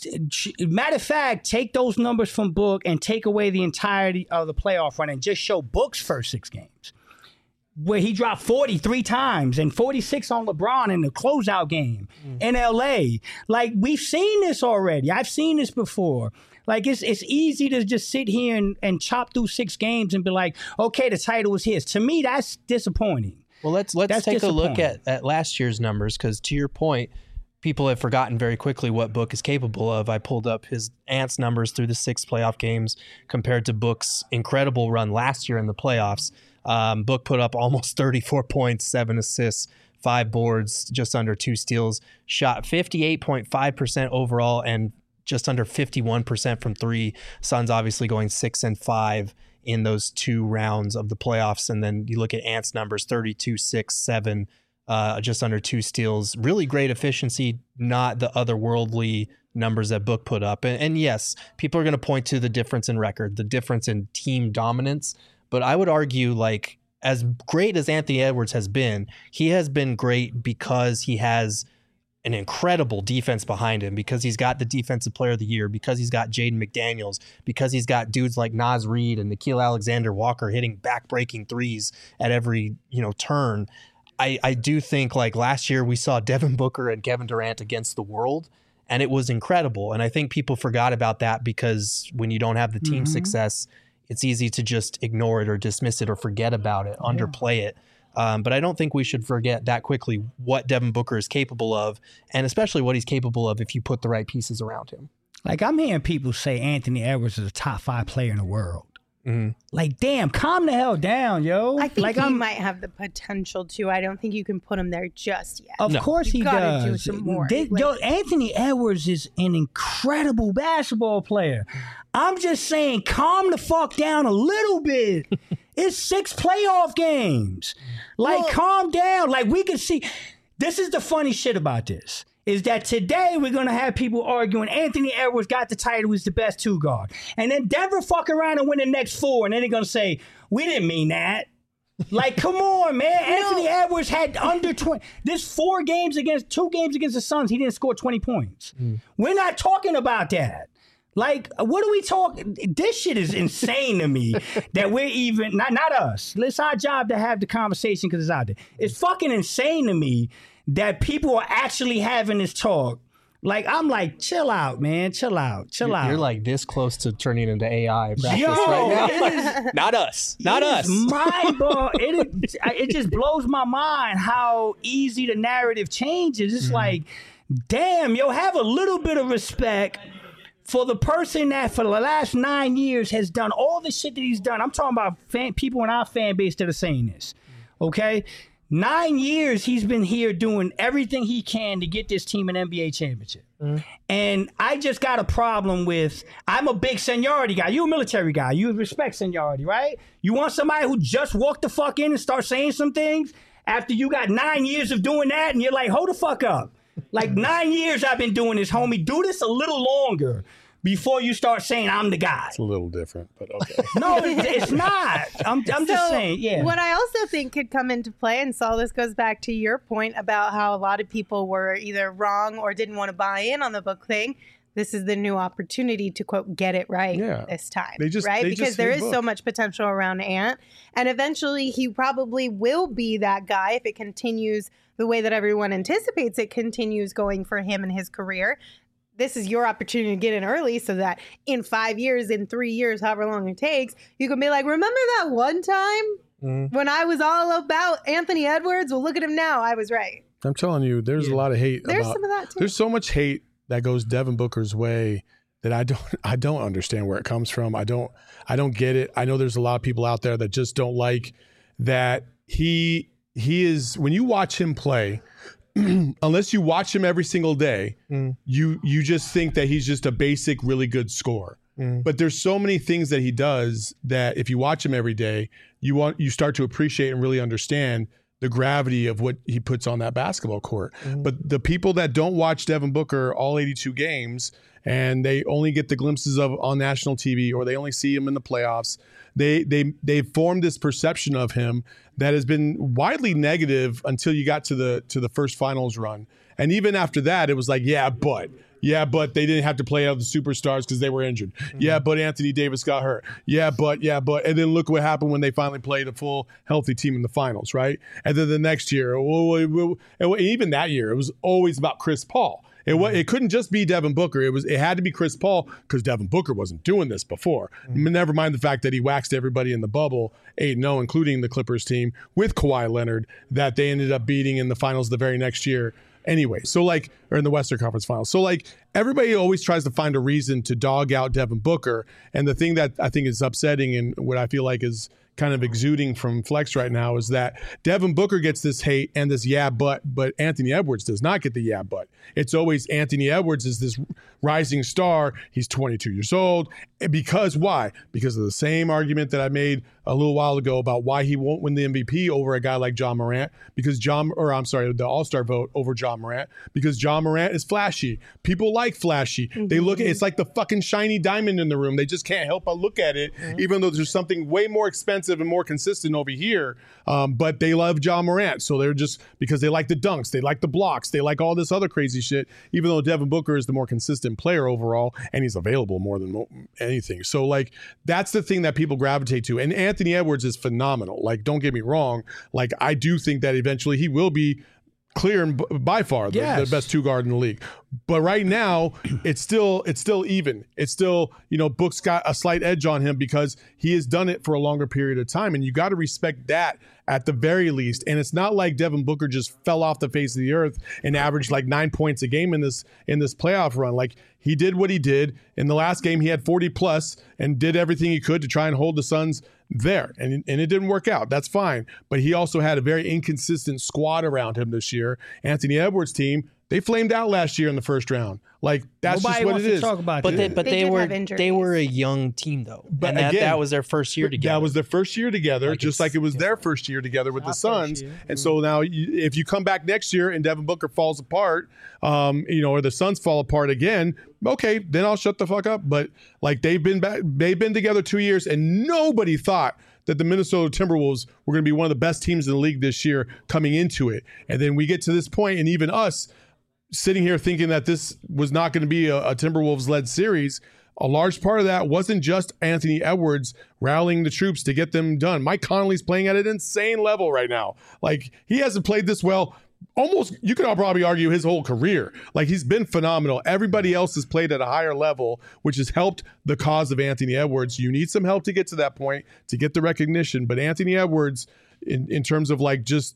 matter of fact, take those numbers from Book and take away the entirety of the playoff run and just show Book's first six games, where he dropped forty-three times and forty-six on LeBron in the closeout game Mm. in L A. Like, we've seen this already. I've seen this before. Like, it's it's easy to just sit here and, and chop through six games and be like, okay, the title is his. To me, that's disappointing. Well, let's let's That's take a look disappointing. at, at last year's numbers, because to your point, people have forgotten very quickly what Book is capable of. I pulled up his Ants numbers through the six playoff games compared to Book's incredible run last year in the playoffs. Um, Book put up almost thirty-four points, seven assists, five boards, just under two steals, shot fifty-eight point five percent overall and just under fifty-one percent from three. Suns obviously going six and five in those two rounds of the playoffs. And then you look at Ant's numbers, thirty-two, six, seven, uh, just under two steals. Really great efficiency, not the otherworldly numbers that Book put up. And, and yes, people are going to point to the difference in record, the difference in team dominance. But I would argue, like, as great as Anthony Edwards has been, he has been great because he has an incredible defense behind him, because he's got the defensive player of the year, because he's got Jaden McDaniels, because he's got dudes like Naz Reid and Nikhil Alexander-Walker hitting back-breaking threes at every, you know, turn. I, I do think, like, last year we saw Devin Booker and Kevin Durant against the world, and it was incredible. And I think people forgot about that because when you don't have the team Mhm. success, it's easy to just ignore it or dismiss it or forget about it, underplay it. Um, but I don't think we should forget that quickly what Devin Booker is capable of, and especially what he's capable of if you put the right pieces around him. Like, I'm hearing people say Anthony Edwards is a top five player in the world. Mhm. Like, damn, calm the hell down, yo. I think like, he I'm, might have the potential to. I don't think you can put him there just yet. Of No. course You he gotta do does. some more. They- Like- yo, Anthony Edwards is an incredible basketball player. I'm just saying, calm the fuck down a little bit. It's six playoff games. Like, Well- calm down. Like, we can see. This is the funny shit about this. Is that today we're going to have people arguing Anthony Edwards got the title, he's the best two guard. And then Denver fuck around and win the next four. And then they're going to say, we didn't mean that. Like, come on, man. Anthony Edwards had under twenty. This four games against, two games against the Suns, he didn't score twenty points. We're not talking about that. Like, what are we talking? This shit is insane to me that we're even, not, not us. It's our job to have the conversation because it's out there. It's fucking insane to me that people are actually having this talk. Like, I'm like, chill out, man. Chill out. Chill You're, out. you're like this close to turning into A I practice Yo, right it now. is- Not us. Not It us. is mind blow- it, is- it just blows my mind how easy the narrative changes. It's like damn, yo, have a little bit of respect for the person that for the last nine years has done all the shit that he's done. I'm talking about fan, people in our fan base that are saying this, okay? Nine years he's been here doing everything he can to get this team an N B A championship. Mm. And I just got a problem with, I'm a big seniority guy. You a military guy. You respect seniority, right? You want somebody who just walked the fuck in and start saying some things after you got nine years of doing that and you're like, hold the fuck up. Like nine years I've been doing this, homie. Do this a little longer before you start saying I'm the guy. It's a little different, but okay. No, it's, it's not. I'm, I'm so just saying, yeah. What I also think could come into play, and Saul, this goes back to your point about how a lot of people were either wrong or didn't want to buy in on the book thing. This is the new opportunity to, quote, get it right yeah. this time. They just, right? They because just there is book. so much potential around Ant. And eventually he probably will be that guy if it continues the way that everyone anticipates it continues going for him and his career. This is your opportunity to get in early so that in five years, in three years, however long it takes, you can be like, remember that one time mm. when I was all about Anthony Edwards? Well, look at him now. I was right. I'm telling you, there's yeah. a lot of hate. There's about, some of that too. There's so much hate that goes Devin Booker's way that I don't I don't understand where it comes from. I don't I don't get it. I know there's a lot of people out there that just don't like that he he is when you watch him play, unless you watch him every single day, mm. you you just think that he's just a basic, really good scorer. Mm. But there's so many things that he does that if you watch him every day, you want you start to appreciate and really understand the gravity of what he puts on that basketball court. Mm. But the people that don't watch Devin Booker all eighty-two games and they only get the glimpses of on national T V or they only see him in the playoffs, they they they've formed this perception of him that has been widely negative until you got to the to the first finals run. And even after that, it was like, yeah, but yeah, but they didn't have to play out the superstars because they were injured. Mm-hmm. Yeah, but Anthony Davis got hurt. Yeah, but yeah, but and then look what happened when they finally played a full healthy team in the finals, right? And then the next year, and even that year, it was always about Chris Paul. It was, it couldn't just be Devin Booker. It was it had to be Chris Paul because Devin Booker wasn't doing this before. Mm-hmm. Never mind the fact that he waxed everybody in the bubble eight and oh, including the Clippers team with Kawhi Leonard that they ended up beating in the finals the very next year. Anyway, so like, or in the Western Conference Finals. So like, everybody always tries to find a reason to dog out Devin Booker. And the thing that I think is upsetting and what I feel like is kind of exuding from Flex right now is that Devin Booker gets this hate and this yeah, but, but Anthony Edwards does not get the yeah, but. It's always Anthony Edwards is this rising star. He's twenty-two years old. Because why? Because of the same argument that I made a little while ago about why he won't win the M V P over a guy like John Morant. Because John, or I'm sorry, the All-Star vote over John Morant. Because John Morant is flashy. People like flashy. Mm-hmm. They look at it's like the fucking shiny diamond in the room. They just can't help but look at it, mm-hmm. even though there's something way more expensive and more consistent over here. Um, but they love John Morant. So they're just because they like the dunks, they like the blocks, they like all this other crazy shit, even though Devin Booker is the more consistent player overall and he's available more than anything. So like that's the thing that people gravitate to. And Anthony Edwards is phenomenal. Like, don't get me wrong. Like, I do think that eventually he will be clear and b- by far the, yes. the best two guard in the league. But right now, it's still it's still even. It's still, you know, Book's got a slight edge on him because he has done it for a longer period of time. And you got to respect that at the very least. And it's not like Devin Booker just fell off the face of the earth and averaged like nine points a game in this in this playoff run. Like, he did what he did. In the last game, he had forty plus and did everything he could to try and hold the Suns there. And, and it didn't work out. That's fine. But he also had a very inconsistent squad around him this year. Anthony Edwards' team, they flamed out last year in the first round. Like, that's Nobody just what wants it to is. Talk about but that. they, but They they, did were have injuries. they were a young team though, But and that, again, that was their first year together. That was their first year together, Like just like it was their different. first year together with Our the first Suns. year. And so now, you, if you come back next year and Devin Booker falls apart, um, you know, or the Suns fall apart again, okay, then I'll shut the fuck up. But like they've been back, they've been together two years, and nobody thought that the Minnesota Timberwolves were going to be one of the best teams in the league this year coming into it. And then we get to this point, and even us sitting here thinking that this was not going to be a, a Timberwolves-led series. A large part of that wasn't just Anthony Edwards rallying the troops to get them done. Mike Conley's playing at an insane level right now. Like, he hasn't played this well almost, you could all probably argue, his whole career. Like, he's been phenomenal. Everybody else has played at a higher level, which has helped the cause of Anthony Edwards. You need some help to get to that point, to get the recognition. But Anthony Edwards, in, in terms of like just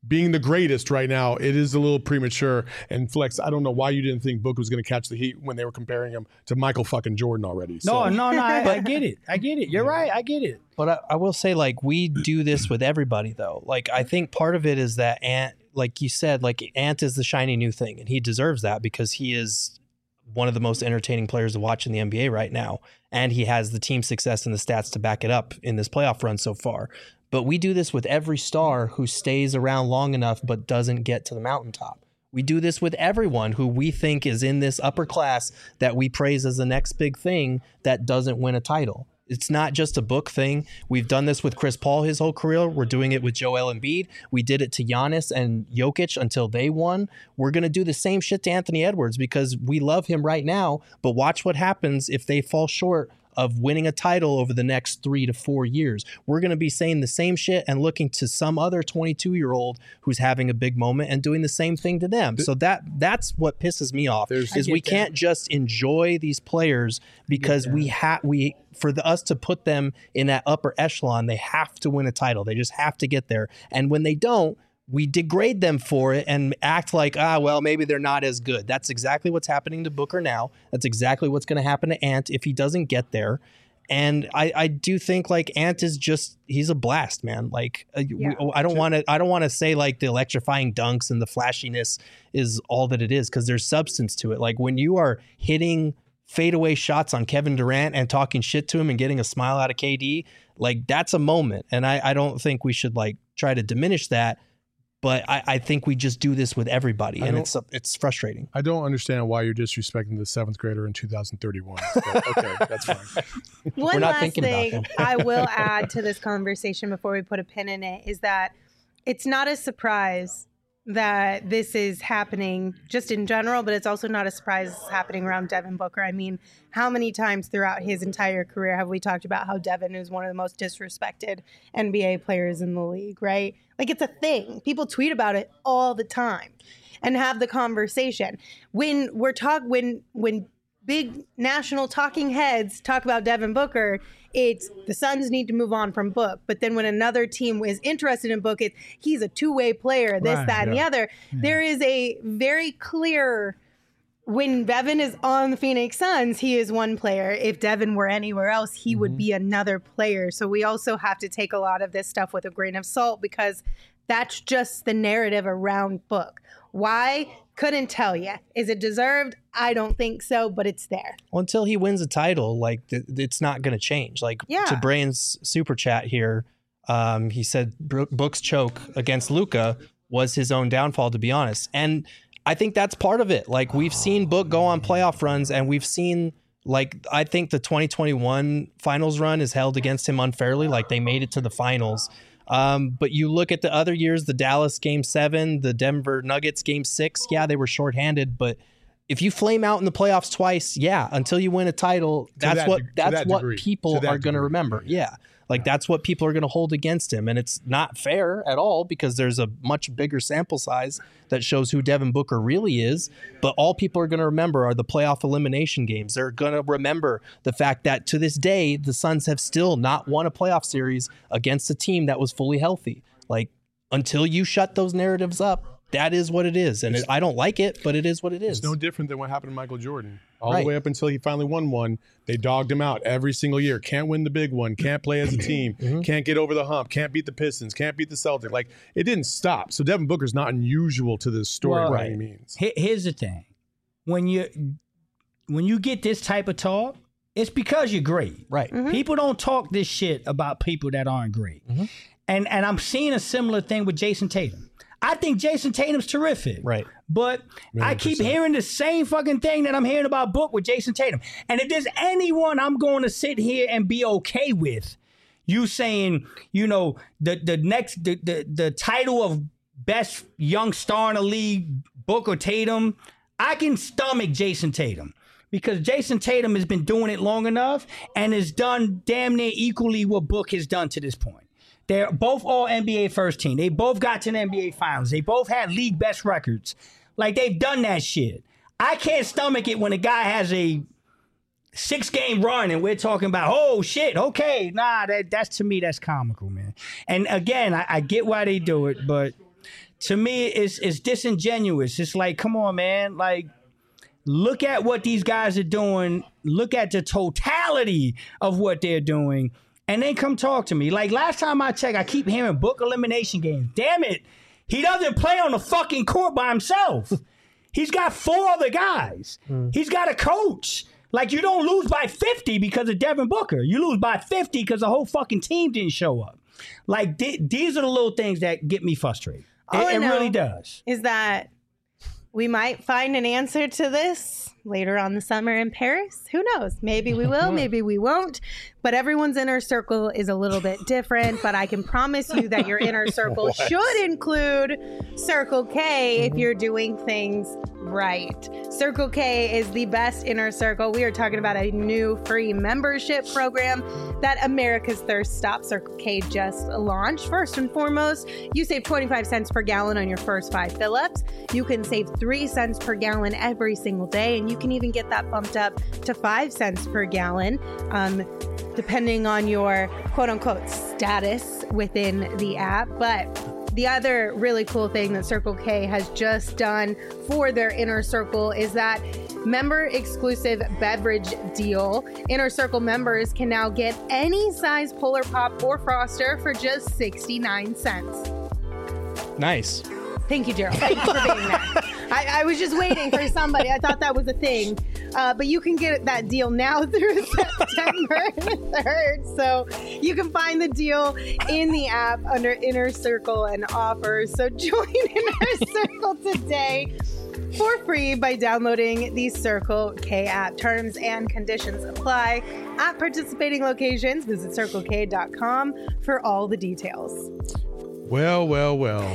being the greatest right now, it is a little premature. And Flex, I don't know why you didn't think Book was going to catch the heat when they were comparing him to Michael fucking Jordan already. So. No, no, no. I, I get it. I get it. You're right. I get it. But I, I will say, like, we do this with everybody, though. Like, I think part of it is that Ant, like you said, like Ant is the shiny new thing, and he deserves that because he is one of the most entertaining players to watch in the N B A right now, and he has the team success and the stats to back it up in this playoff run so far. But we do this with every star who stays around long enough but doesn't get to the mountaintop. We do this with everyone who we think is in this upper class that we praise as the next big thing that doesn't win a title. It's not just a Book thing. We've done this with Chris Paul his whole career. We're doing it with Joel Embiid. We did it to Giannis and Jokic until they won. We're going to do the same shit to Anthony Edwards because we love him right now, but watch what happens if they fall short of winning a title over the next three to four years. We're going to be saying the same shit and looking to some other twenty-two-year-old who's having a big moment and doing the same thing to them. So that that's what pisses me off There's, is we that. can't just enjoy these players because we have we for the, us to put them in that upper echelon, they have to win a title. They just have to get there. And when they don't, we degrade them for it and act like, ah, well, maybe they're not as good. That's exactly what's happening to Booker now. That's exactly what's going to happen to Ant if he doesn't get there. And I, I do think like Ant is just, he's a blast, man. Like uh, Yeah. we, I don't want to, I don't want to say like the electrifying dunks and the flashiness is all that it is, because there's substance to it. Like when you are hitting fadeaway shots on Kevin Durant and talking shit to him and getting a smile out of K D, like that's a moment. And I, I don't think we should like try to diminish that. But I, I think we just do this with everybody, I and don't- it's it's frustrating. I don't understand why you're disrespecting the seventh grader in two thousand thirty-one. But okay, that's fine. One not last thinking about thing him. I will add to this conversation before we put a pin in it is that it's not a surprise that this is happening just in general, but it's also not a surprise it's happening around Devin Booker. I mean, how many times throughout his entire career have we talked about how Devin is one of the most disrespected N B A players in the league, right? Like it's a thing. People tweet about it all the time and have the conversation. When we're talk when when big national talking heads talk about Devin Booker, it's the Suns need to move on from Book. But then when another team is interested in Book, it's he's a two-way player, this, Right, that, and the yeah. other. There is a very clear, when Devin is on the Phoenix Suns, he is one player. If Devin were anywhere else, he would be another player. So we also have to take a lot of this stuff with a grain of salt because that's just the narrative around Book. Why? Couldn't tell you. Is it deserved? I don't think so, but it's there. Well, until he wins a title, like th- it's not going to change. Like Yeah. to Brain's super chat here, um, he said Bro- Book's choke against Luka was his own downfall, to be honest. And I think that's part of it. Like we've seen Book go on playoff runs, and we've seen like I think the twenty twenty-one finals run is held against him unfairly. Like they made it to the finals. Um, but you look at the other years, the Dallas game seven, the Denver Nuggets game six. Yeah, they were shorthanded, but if you flame out in the playoffs twice, yeah, until you win a title, that's that what deg- to that's that what degree. people To that are going to degree. remember. Yeah. Like that's what people are going to hold against him, and it's not fair at all because there's a much bigger sample size that shows who Devin Booker really is. But all people are going to remember are the playoff elimination games. They're going to remember the fact that to this day the Suns have still not won a playoff series against a team that was fully healthy. Like until you shut those narratives up, that is what it is, and it, I don't like it, but it is what it is. It's no different than what happened to Michael Jordan. All Right. the way up until he finally won one, they dogged him out every single year. Can't win the big one. Can't play as a team. Mm-hmm. Can't get over the hump. Can't beat the Pistons. Can't beat the Celtics. Like it didn't stop. So Devin Booker's not unusual to this story Well, by any means. Here- Here's the thing: when you when you get this type of talk, it's because you're great. Right. People don't talk this shit about people that aren't great. Mm-hmm. And and I'm seeing a similar thing with Jason Tatum. I think Jason Tatum's terrific. Right. But I keep percent. hearing the same fucking thing that I'm hearing about Book with Jason Tatum. And if there's anyone I'm going to sit here and be okay with, you saying, you know, the the next the the, the title of best young star in the league, Book or Tatum, I can stomach Jason Tatum. Because Jason Tatum has been doing it long enough and has done damn near equally what Book has done to this point. They're both all N B A first team. They both got to the N B A finals. They both had league best records. Like they've done that shit. I can't stomach it when a guy has a six game run and we're talking about, oh shit, okay. Nah, that that's to me, that's comical, man. And again, I, I get why they do it, but to me, it's it's disingenuous. It's like, come on, man. Like, look at what these guys are doing. Look at the totality of what they're doing. And then come talk to me. Like, last time I checked, I keep hearing book elimination games. Damn it. He doesn't play on the fucking court by himself. He's got four other guys. Mm. He's got a coach. Like, you don't lose by fifty because of Devin Booker. You lose by fifty because the whole fucking team didn't show up. Like, th- these are the little things that get me frustrated. All It, I it know really does. Is that we might find an answer to this later on the summer in Paris. Who knows? Maybe we will, maybe we won't. But everyone's inner circle is a little bit different. But I can promise you that your inner circle should include Circle K if you're doing things right. Circle K is the best inner circle. We are talking about a new free membership program that America's Thirst Stop Circle K just launched. First and foremost, you save twenty-five cents per gallon on your first five fill-ups. You can save three cents per gallon every single day, and you can even get that bumped up to five cents per gallon, um, depending on your quote-unquote status within the app. But the other really cool thing that Circle K has just done for their inner circle is that member exclusive beverage deal. Inner Circle members can now get any size Polar Pop or Froster for just sixty-nine cents. Nice. Thank you, Gerald. Thank you for being there. I, I was just waiting for somebody. I thought that was a thing. Uh, but you can get that deal now through September third. So you can find the deal in the app under Inner Circle and offers. So join Inner Circle today for free by downloading the Circle K app. Terms and conditions apply. At participating locations, visit circle k dot com for all the details. Well, well, well.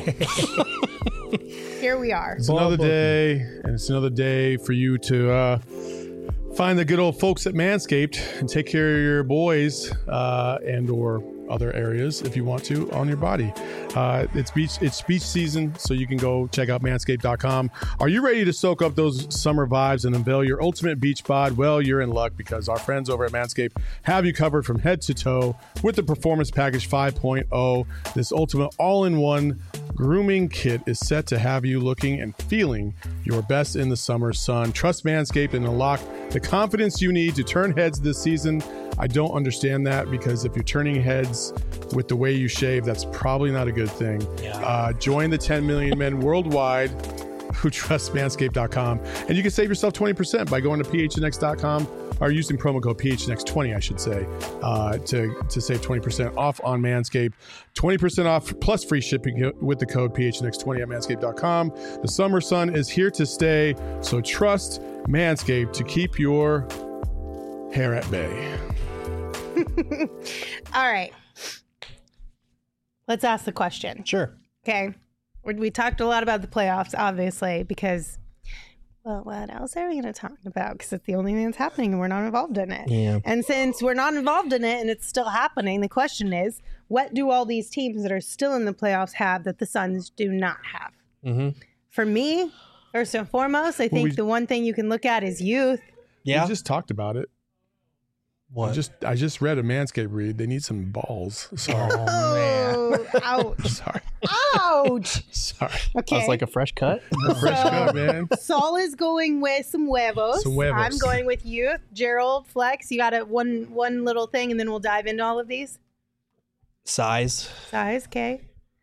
Here we are. It's another day, and it's another day for you to uh, find the good old folks at Manscaped and take care of your boys uh, and or other areas if you want to on your body. Uh, it's beach it's beach season, so you can go check out manscaped dot com. Are you ready to soak up those summer vibes and unveil your ultimate beach bod? Well, you're in luck because our friends over at Manscaped have you covered from head to toe with the Performance Package five point oh. This ultimate all-in-one grooming kit is set to have you looking and feeling your best in the summer sun. Trust Manscaped and unlock the confidence you need to turn heads this season. I don't understand that, because if you're turning heads with the way you shave, that's probably not a good thing. Yeah. Uh, join the ten million men worldwide who trust manscaped dot com, and you can save yourself twenty percent by going to p h n x dot com or using promo code P H N X twenty, I should say, uh, to, to save twenty percent off on Manscaped. twenty percent off plus free shipping with the code P H N X twenty at manscaped dot com. The summer sun is here to stay, so trust Manscaped to keep your hair at bay. All right. Let's ask the question. Sure. Okay. We, we talked a lot about the playoffs, obviously, because, well, what else are we going to talk about? Because it's the only thing that's happening and we're not involved in it. Yeah. And since we're not involved in it and it's still happening, the question is, what do all these teams that are still in the playoffs have that the Suns do not have? Mm-hmm. For me, first and foremost, I think Well, we, the one thing you can look at is youth. Yeah. We just talked about it. What? I just I just read a Manscaped read. They need some balls. Sorry. Oh, ouch. Sorry. Ouch. Sorry. Okay. Sounds like a fresh cut. Fresh cut, man. Saul is going with some huevos. Some huevos. I'm going with youth. Gerald, Flex, you got a one one little thing, and then we'll dive into all of these. Size. Size, okay.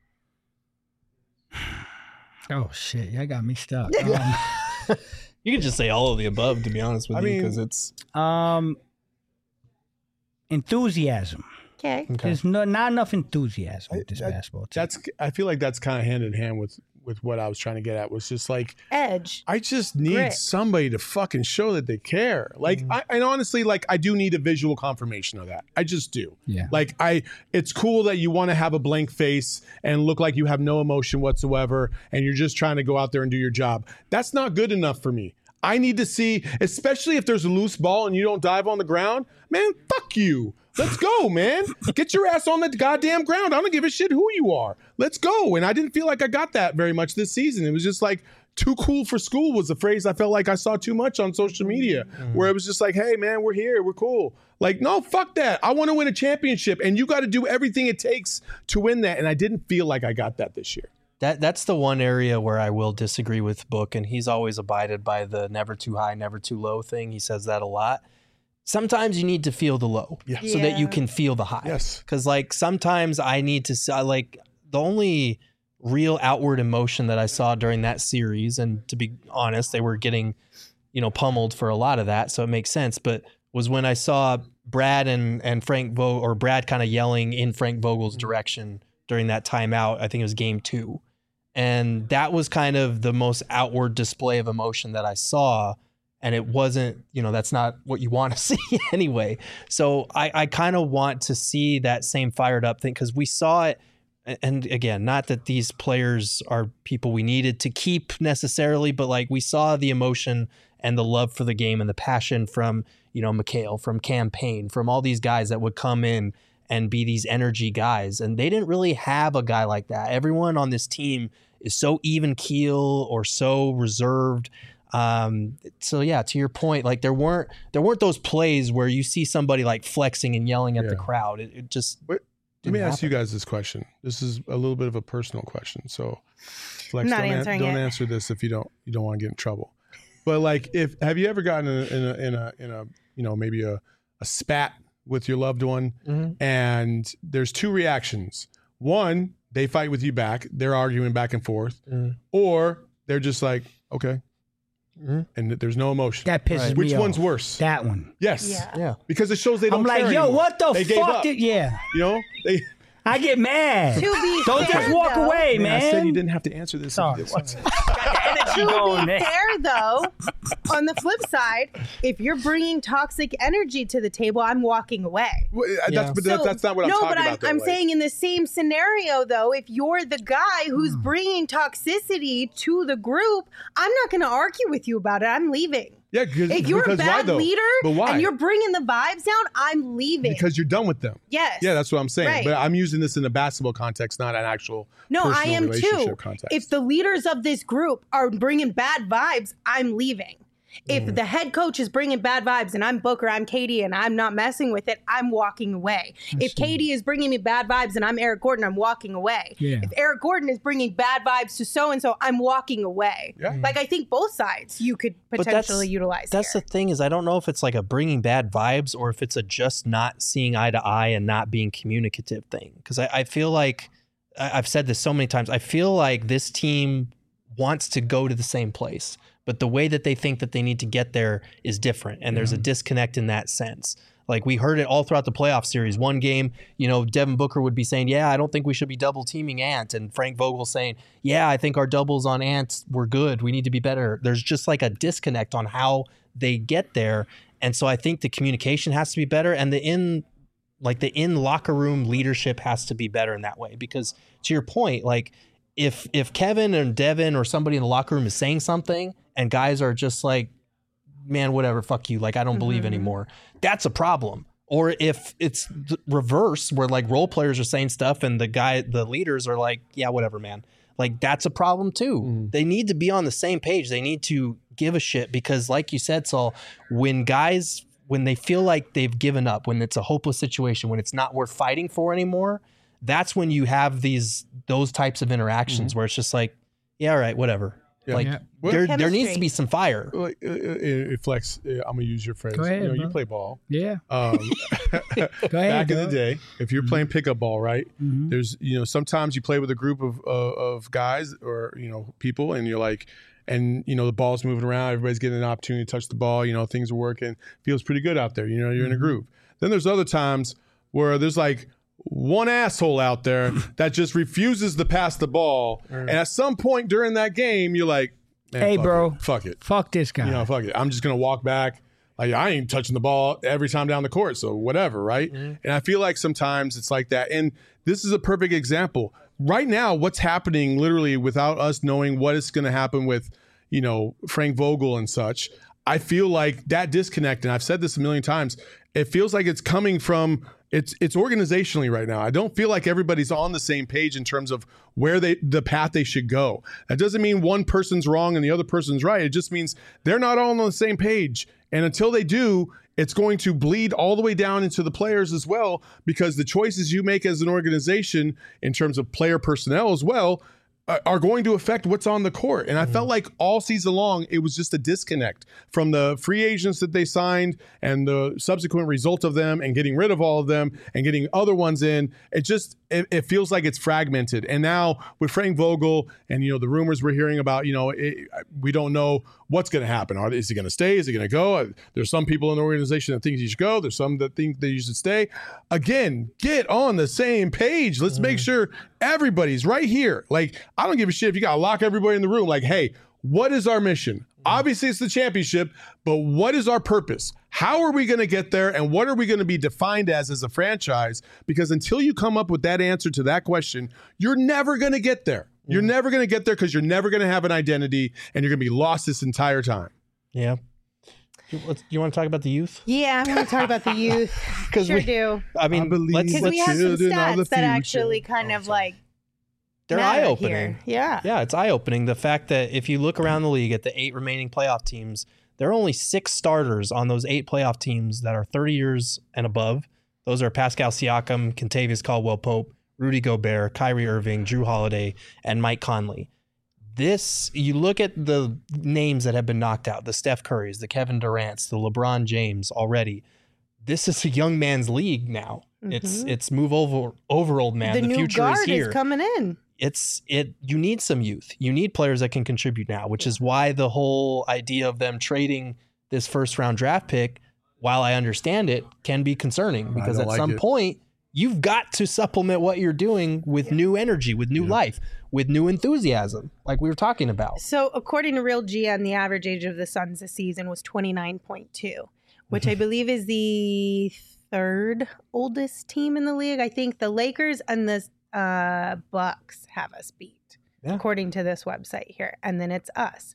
Oh, shit. Y'all got me stuck. Um, You can just say all of the above, to be honest with I you, mean- because it's um, enthusiasm. Okay. okay. There's no, not enough enthusiasm with this I- I- basketball team. That's I feel like that's kind of hand in hand with with what I was trying to get at. Was just like, Edge. I just need Grit. somebody to fucking show that they care. Like, Mm-hmm. I, and honestly, like, I do need a visual confirmation of that. I just do. Yeah. Like, I, it's cool that you want to have a blank face and look like you have no emotion whatsoever, and you're just trying to go out there and do your job. That's not good enough for me. I need to see, especially if there's a loose ball and you don't dive on the ground, man, fuck you. Let's go, man. Get your ass on the goddamn ground. I don't give a shit who you are. Let's go. And I didn't feel like I got that very much this season. It was just like, too cool for school was a phrase I felt like I saw too much on social media, mm-hmm. where it was just like, hey, man, we're here. We're cool. Like, no, fuck that. I want to win a championship, and you got to do everything it takes to win that. And I didn't feel like I got that this year. That that's the one area where I will disagree with Book, and he's always abided by the never too high, never too low thing. He says that a lot. Sometimes you need to feel the low Yeah. so that you Yeah. can feel the high. Yes. Because like sometimes I need to s- I like the only real outward emotion that I saw during that series, and to be honest, they were getting, you know, pummeled for a lot of that, so it makes sense. But was when I saw Brad and and Frank Vogel, or Brad kind of yelling in Frank Vogel's direction during that timeout. I think it was game two. And that was kind of the most outward display of emotion that I saw. And it wasn't, you know, that's not what you want to see anyway. So I, I kind of want to see that same fired up thing, because we saw it. And again, not that these players are people we needed to keep necessarily, but like we saw the emotion and the love for the game and the passion from, you know, Mikhail, from Campaign, from all these guys that would come in and be these energy guys. And they didn't really have a guy like that. Everyone on this team is so even keel or so reserved. Um, so yeah, to your point, like there weren't there weren't those plays where you see somebody like flexing and yelling at Yeah. the crowd. It, it just Wait, let me didn't ask you happen. guys this question. This is a little bit of a personal question. So Flex, I'm not don't, an- answering don't it. answer this if you don't you don't want to get in trouble. But like, if have you ever gotten in a in a in a, in a you know maybe a, a spat with your loved one, Mhm. and there's two reactions. One, they fight with you back. They're arguing back and forth, Mhm. or they're just like, okay, Mhm. and there's no emotion. That pisses Right. me Which off. one's worse? That one. Yes. Yeah. Yeah. Because it shows they don't I'm like, care yo, anymore. what the They gave fuck? up. Did, yeah. You know, they. I get mad. To be Don't fair, just walk though, away, man. I said you didn't have to answer this. Sorry. If you did. Got the energy To going be there. fair, though, on the flip side, if you're bringing toxic energy to the table, I'm walking away. Well, that's, Yeah. but that, So- that's not what I'm no, talking but I'm, about. though, I'm like- saying in the same scenario, though, if you're the guy who's bringing toxicity to the group, I'm not going to argue with you about it. I'm leaving. yeah, because, If you're a because why bad though? leader But why? and you're bringing the vibes down, I'm leaving. Because you're done with them. yes. Yeah, that's what I'm saying. Right. But I'm using this in a basketball context, not an actual No, I personal am relationship too. context. If the leaders of this group are bringing bad vibes, I'm leaving. If Mm. the head coach is bringing bad vibes and I'm Booker, I'm Katie, and I'm not messing with it, I'm walking away. If Katie is bringing me bad vibes and I'm Eric Gordon, I'm walking away. Yeah. If Eric Gordon is bringing bad vibes to so and so, I'm walking away. Yeah. Like I think both sides you could But that's- potentially utilize. That's here. the thing, is I don't know if it's like a bringing bad vibes or if it's a just not seeing eye to eye and not being communicative thing. Because I, I feel like I- I've said this so many times. I feel like this team wants to go to the same place, but the way that they think that they need to get there is different, and there's a disconnect in that sense. Like we heard it all throughout the playoff series. One game, you know, Devin Booker would be saying, "Yeah, I don't think we should be double teaming Ant," and Frank Vogel saying, "Yeah, I think our doubles on Ant were good. We need to be better." There's just like a disconnect on how they get there, and so I think the communication has to be better, and the in like the in locker room leadership has to be better in that way. Because to your point, like if if Kevin or Devin or somebody in the locker room is saying something and guys are just like, man, whatever, fuck you, like I don't believe Mhm. anymore, that's a problem. Or if it's the reverse, where like role players are saying stuff and the guy, the leaders are like, yeah, whatever, man, like that's a problem too. Mhm. They need to be on the same page. They need to give a shit, because like you said, Saul, when guys, when they feel like they've given up, when it's a hopeless situation, when it's not worth fighting for anymore, that's when you have these those types of interactions where it's just like, yeah, all right, whatever. Yeah. Like Yeah. Well, there, there needs Chemistry. to be some fire. like, uh, uh, uh, Flex, uh, I'm gonna use your phrase. Go ahead, you know, you bro. play ball. Yeah. Um, Go ahead. back in the dog. day, if you're playing pickup ball, right? Mhm. There's, you know, sometimes you play with a group of uh, of guys or you know people, and you're like, and you know the ball's moving around, everybody's getting an opportunity to touch the ball. You know, things are working, feels pretty good out there. You know, you're in a groove. Then there's other times where there's like one asshole out there that just refuses to pass the ball, and at some point during that game, you're like, man, Hey, fuck bro. it. fuck it. Fuck this guy. You know, fuck it. I'm just gonna walk back. Like I ain't touching the ball every time down the court, so whatever, right? And I feel like sometimes it's like that. And this is a perfect example. Right now, what's happening literally without us knowing what is gonna happen with, you know, Frank Vogel and such. I feel like that disconnect, and I've said this a million times, it feels like it's coming from it's it's organizationally right now. I don't feel like everybody's on the same page in terms of where they the path they should go. That doesn't mean one person's wrong and the other person's right. It just means they're not all on the same page. And until they do, it's going to bleed all the way down into the players as well, because the choices you make as an organization in terms of player personnel as well are going to affect what's on the court. And I mm-hmm. felt like all season long, it was just a disconnect from the free agents that they signed and the subsequent result of them and getting rid of all of them and getting other ones in. It just, it, it feels like it's fragmented. And now with Frank Vogel and, you know, the rumors we're hearing about, you know, it, we don't know what's going to happen. Are, is he going to stay? Is he going to go? There's some people in the organization that think he should go. There's some that think that he should stay. Again, get on the same page. Let's mm-hmm. make sure everybody's right here. Like, I don't give a shit if you got to lock everybody in the room. Like, hey, what is our mission? Mm-hmm. Obviously, it's the championship, but what is our purpose? How are we going to get there? And what are we going to be defined as as a franchise? Because until you come up with that answer to that question, you're never going to get there. You're mm-hmm. never going to get there because you're never going to have an identity and you're going to be lost this entire time. Yeah. You, you want to talk about the youth? Yeah, I want to talk about the youth. Sure we, do. I mean, because we have some stats that actually kind oh, of like they're eye-opening. Here. Yeah. Yeah, it's eye-opening. The fact that if you look around the league at the eight remaining playoff teams, there are only six starters on those eight playoff teams that are thirty years and above. Those are Pascal Siakam, Kentavious Caldwell-Pope, Rudy Gobert, Kyrie Irving, Drew Holiday, and Mike Conley. This, you look at the names that have been knocked out, the Steph Currys, the Kevin Durants, the LeBron James already. This is a young man's league now. Mm-hmm. It's it's move over over old man. The, the new future guard is here. Is coming in. It's it. You need some youth. You need players that can contribute now, which is why the whole idea of them trading this first round draft pick, while I understand it, can be concerning because at like some it. point you've got to supplement what you're doing with yeah. new energy, with new yeah. life, with new enthusiasm, like we were talking about. So according to Real G M, the average age of the Suns this season was twenty-nine point two, which I believe is the third oldest team in the league. I think the Lakers and the uh, Bucks have us beat, yeah. according to this website here. And then it's us.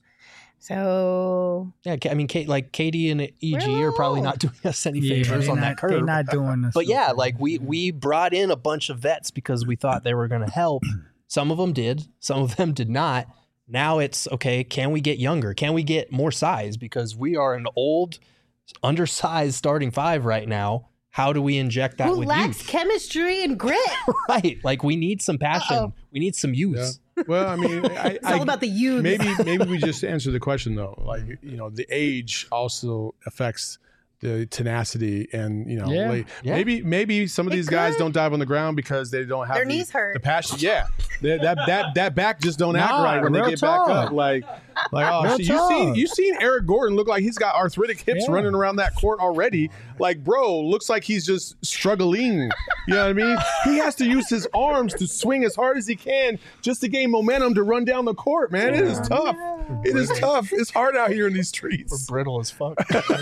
So yeah, I mean, Kate, like K D and E G are probably not doing us any favors yeah, on not, that curve. They're not doing us. But yeah, like we we brought in a bunch of vets because we thought they were going to help. Some of them did, some of them did not. Now it's okay. Can we get younger? Can we get more size? Because we are an old, undersized starting five right now. How do we inject that Who with lacks youth? Chemistry and grit. Right. Like we need some passion. Uh-oh. We need some youth. Yeah. Well, I mean, I, it's all I, about the youth. Maybe, maybe we just answer the question though. Like, you know, the age also affects the tenacity, and you know, yeah. like, Yeah. maybe, maybe some of It these guys could. don't dive on the ground because they don't have Their the, knees hurt. the passion. Yeah, They- that that that back just don't act Nah, right when they real get talk. back up. Like, like oh, Real shit, you talk. seen you seen Eric Gordon look like he's got arthritic hips Yeah. running around that court already. Like, bro, looks like he's just struggling. You know what I mean? He has to use his arms to swing as hard as he can just to gain momentum to run down the court. Man, it is tough. It is tough. It's hard out here in these We're streets. brittle as fuck.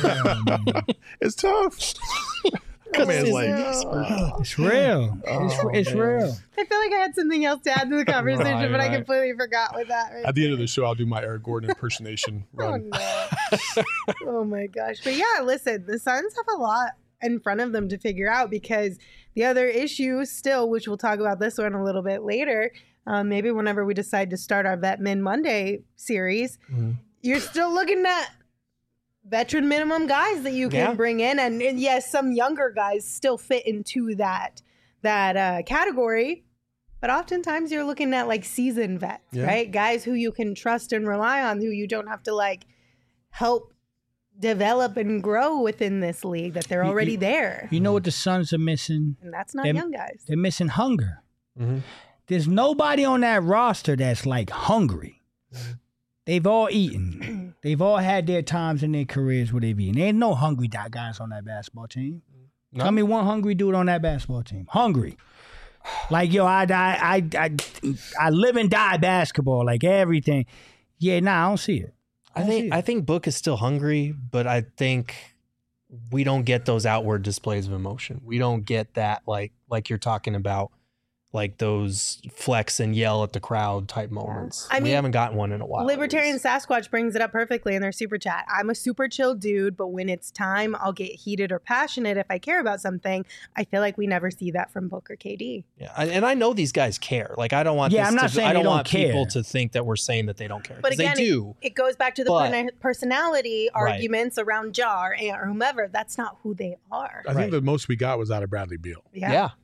It's tough. That man's like, It's real. It's, Oh, it's man. real. I feel like I had something else to add to the conversation, Right, but I right. completely forgot with that. Right At the end of the show, I'll do my Eric Gordon impersonation Oh, run. no. Oh, my gosh. But yeah, listen, the Suns have a lot in front of them to figure out because the other issue still, which we'll talk about this one a little bit later, um, maybe whenever we decide to start our Vet Men Monday series, Mhm. you're still looking at veteran minimum guys that you can Yeah. bring in. And, and yes, some younger guys still fit into that, that uh, category. But oftentimes you're looking at like seasoned vets, Yeah. right? Guys who you can trust and rely on, who you don't have to like help develop and grow within this league, that they're You- already you- there. You know what the Suns are missing? And that's not Them- young guys. They're missing hunger. Mhm. There's nobody on that roster that's like hungry. They've all eaten. They've all had their times in their careers where they've eaten. There ain't no hungry di- guys on that basketball team. No. Tell me one hungry dude on that basketball team. Hungry. Like, yo, I, I, I, I, I live and die basketball, like everything. Yeah, nah, I don't see it. I don't see think it. I think Book is still hungry, but I think we don't get those outward displays of emotion. We don't get that like like you're talking about, like those flex and yell at the crowd type moments. I we mean, haven't gotten one in a while. at Libertarian least. Sasquatch brings it up perfectly in their super chat. I'm a super chill dude, but when it's time, I'll get heated or passionate if I care about something. I feel like we never see that from Book or K D. Yeah, I- and I know these guys care. Like I don't want. Yeah, this I'm not to, saying I they don't don't want people care. to think that we're saying that they don't care. But 'cause again, they do. It, it goes back to the But- per- personality Right. arguments around Jar or whomever. That's not who they are. I think Right. the most we got was out of Bradley Beal. Yeah.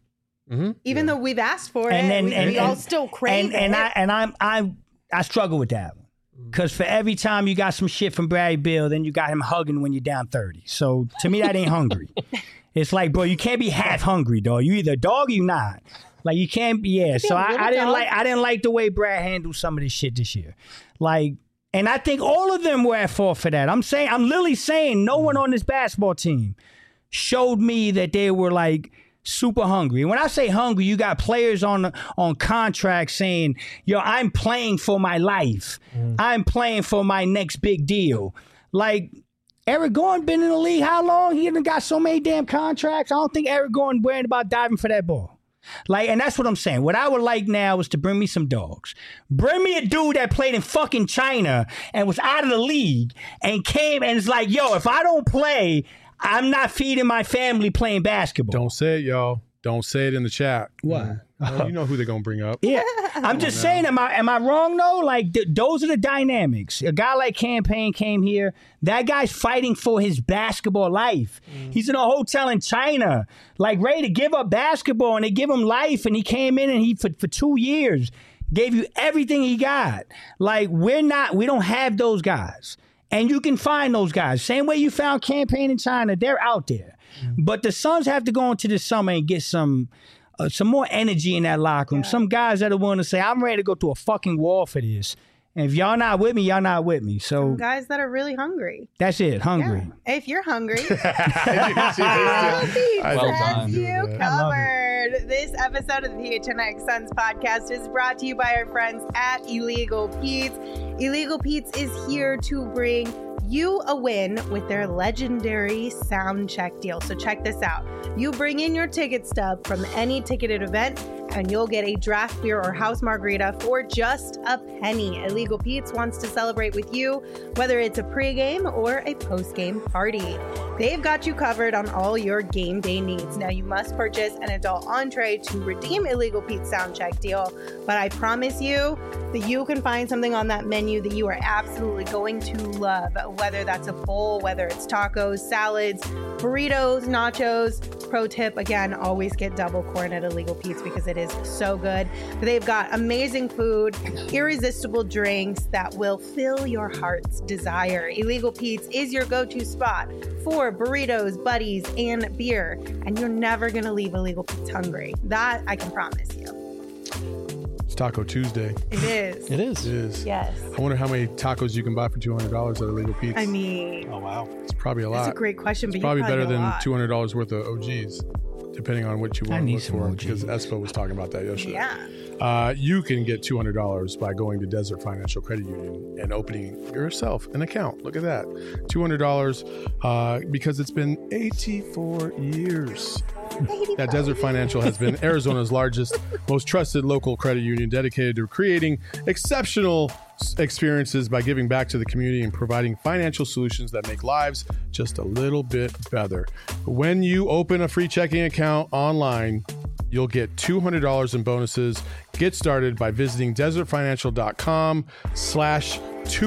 Mm-hmm. Even though we've asked for And it, then- we, and- we all and- still crave and it. and I and I'm I I struggle with that one because for every time you got some shit from Bradley Beal, then you got him hugging when you're down thirty. So to me, that ain't hungry. It's like, bro, you can't be half hungry, dog. You either a dog or you not. Like you can't be. Yeah. So a I, little I didn't dog. like I didn't like the way Brad handled some of this shit this year. Like, and I think all of them were at fault for that. I'm saying I'm literally saying no one on this basketball team showed me that they were like super hungry. And when I say hungry, you got players on on contracts saying, yo, I'm playing for my life. Mm. I'm playing for my next big deal. Like, Eric Gordon been in the league how long? He done got so many damn contracts. I don't think Eric Gordon worried about diving for that ball. Like, and that's what I'm saying. What I would like now is to bring me some dogs. Bring me a dude that played in fucking China and was out of the league and came and is like, yo, if I don't play, I'm not feeding my family playing basketball. Don't say it, y'all. Don't say it in the chat. What? Well, you know who they're gonna bring up. Yeah, I'm just saying. Am I am I wrong though? Like th- those are the dynamics. A guy like Campaign came here. That guy's fighting for his basketball life. Mm. He's in a hotel in China, like ready to give up basketball, and they give him life. And he came in and he for for two years gave you everything he got. Like we're not, we don't have those guys, and you can find those guys. Same way you found Campaign in China, they're out there. Mm. But the Suns have to go into the summer and get some. Uh, some more energy in that locker room. Yeah. Some guys that are willing to say, I'm ready to go through a fucking wall for this. And if y'all not with me, y'all not with me. So some guys that are really hungry. That's it, hungry. Yeah. If you're hungry, Well done. you covered. This episode of the P H N X Suns podcast is brought to you by our friends at Illegal Pete's. Illegal Pete's is here to bring you a win with their legendary sound check deal. So check this out. You bring in your ticket stub from any ticketed event and you'll get a draft beer or house margarita for just a penny. Illegal Pete's wants to celebrate with you, whether it's a pregame or a postgame party. They've got you covered on all your game day needs. Now, you must purchase an adult entree to redeem Illegal Pete's sound check deal, but I promise you that you can find something on that menu that you are absolutely going to love, whether that's a bowl, whether it's tacos, salads, burritos, nachos. Pro tip, again, always get double corn at Illegal Pete's because it is so good. They've got amazing food, irresistible drinks that will fill your heart's desire. Illegal Pete's is your go-to spot for burritos, buddies, and beer, and you're never going to leave Illegal Pete's hungry. That I can promise you. It's Taco Tuesday. It is. It is. It is. Yes. I wonder how many tacos you can buy for two hundred dollars at Illegal Pete's. I mean, Oh, wow. It's probably a lot. that's a great question, but It's you probably probably better get a than lot. two hundred dollars worth of O Gs, depending on what you I want to need look some for. O Gs. Because Espo was talking about that yesterday. Yeah. Uh, you can get two hundred dollars by going to Desert Financial Credit Union and opening yourself an account. Look at that. two hundred dollars uh, because it's been eighty-four years. That Desert Financial has been Arizona's largest, most trusted local credit union dedicated to creating exceptional experiences by giving back to the community and providing financial solutions that make lives just a little bit better. When you open a free checking account online, you'll get two hundred dollars in bonuses. Get started by visiting desertfinancial.com slash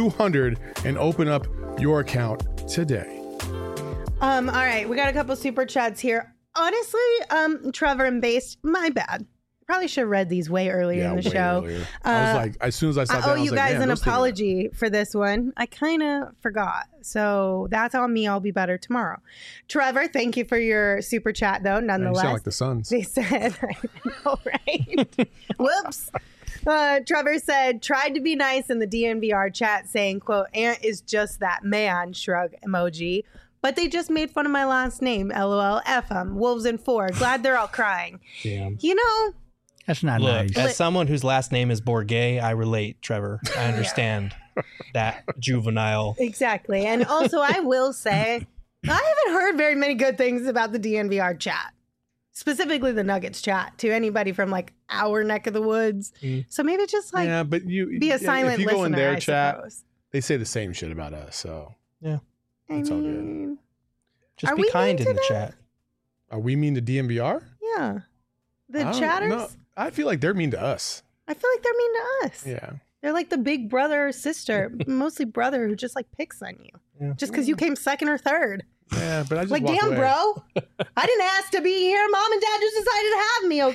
200 and open up your account today. Um, all right, we got a couple super chats here. Honestly, um, Trevor and Based, my bad. Probably should have read these way earlier Yeah, in the way show. earlier. I was Uh, like, as soon as I saw I that, owe I was you like, guys man, an those things are- apology for this one. I kind of forgot. So that's on me. I'll be better tomorrow. Trevor, thank you for your super chat, though, Man, you nonetheless. sound like the Suns. They said, I know, right? Whoops. Uh, Trevor said, tried to be nice in the D N V R chat saying, quote, Ant is just that man, shrug emoji. But they just made fun of my last name, LOL, F them, Wolves in four. Glad they're all crying. Damn. You know, That's not Look, nice. as someone whose last name is Bourget, I relate, Trevor. I understand that juvenile. exactly. And also, I will say, I haven't heard very many good things about the D N V R chat, specifically the Nuggets chat, to anybody from like our neck of the woods. Mm. So maybe just like yeah, but you be a yeah, silent if you listener, go in their I chat, suppose. they say the same shit about us. So I It's all good. mean, Just Are be we kind mean in to the them? chat. are we mean to D M V R? yeah. The I don't chatters, know. I feel like they're mean to us. I feel like they're mean to us. Yeah. They're like the big brother or sister, mostly brother, who just like picks on you. Yeah. Just because you came second or third. Yeah, but I just Like, walk damn, away. bro. I didn't ask to be here. Mom and dad just decided to have me,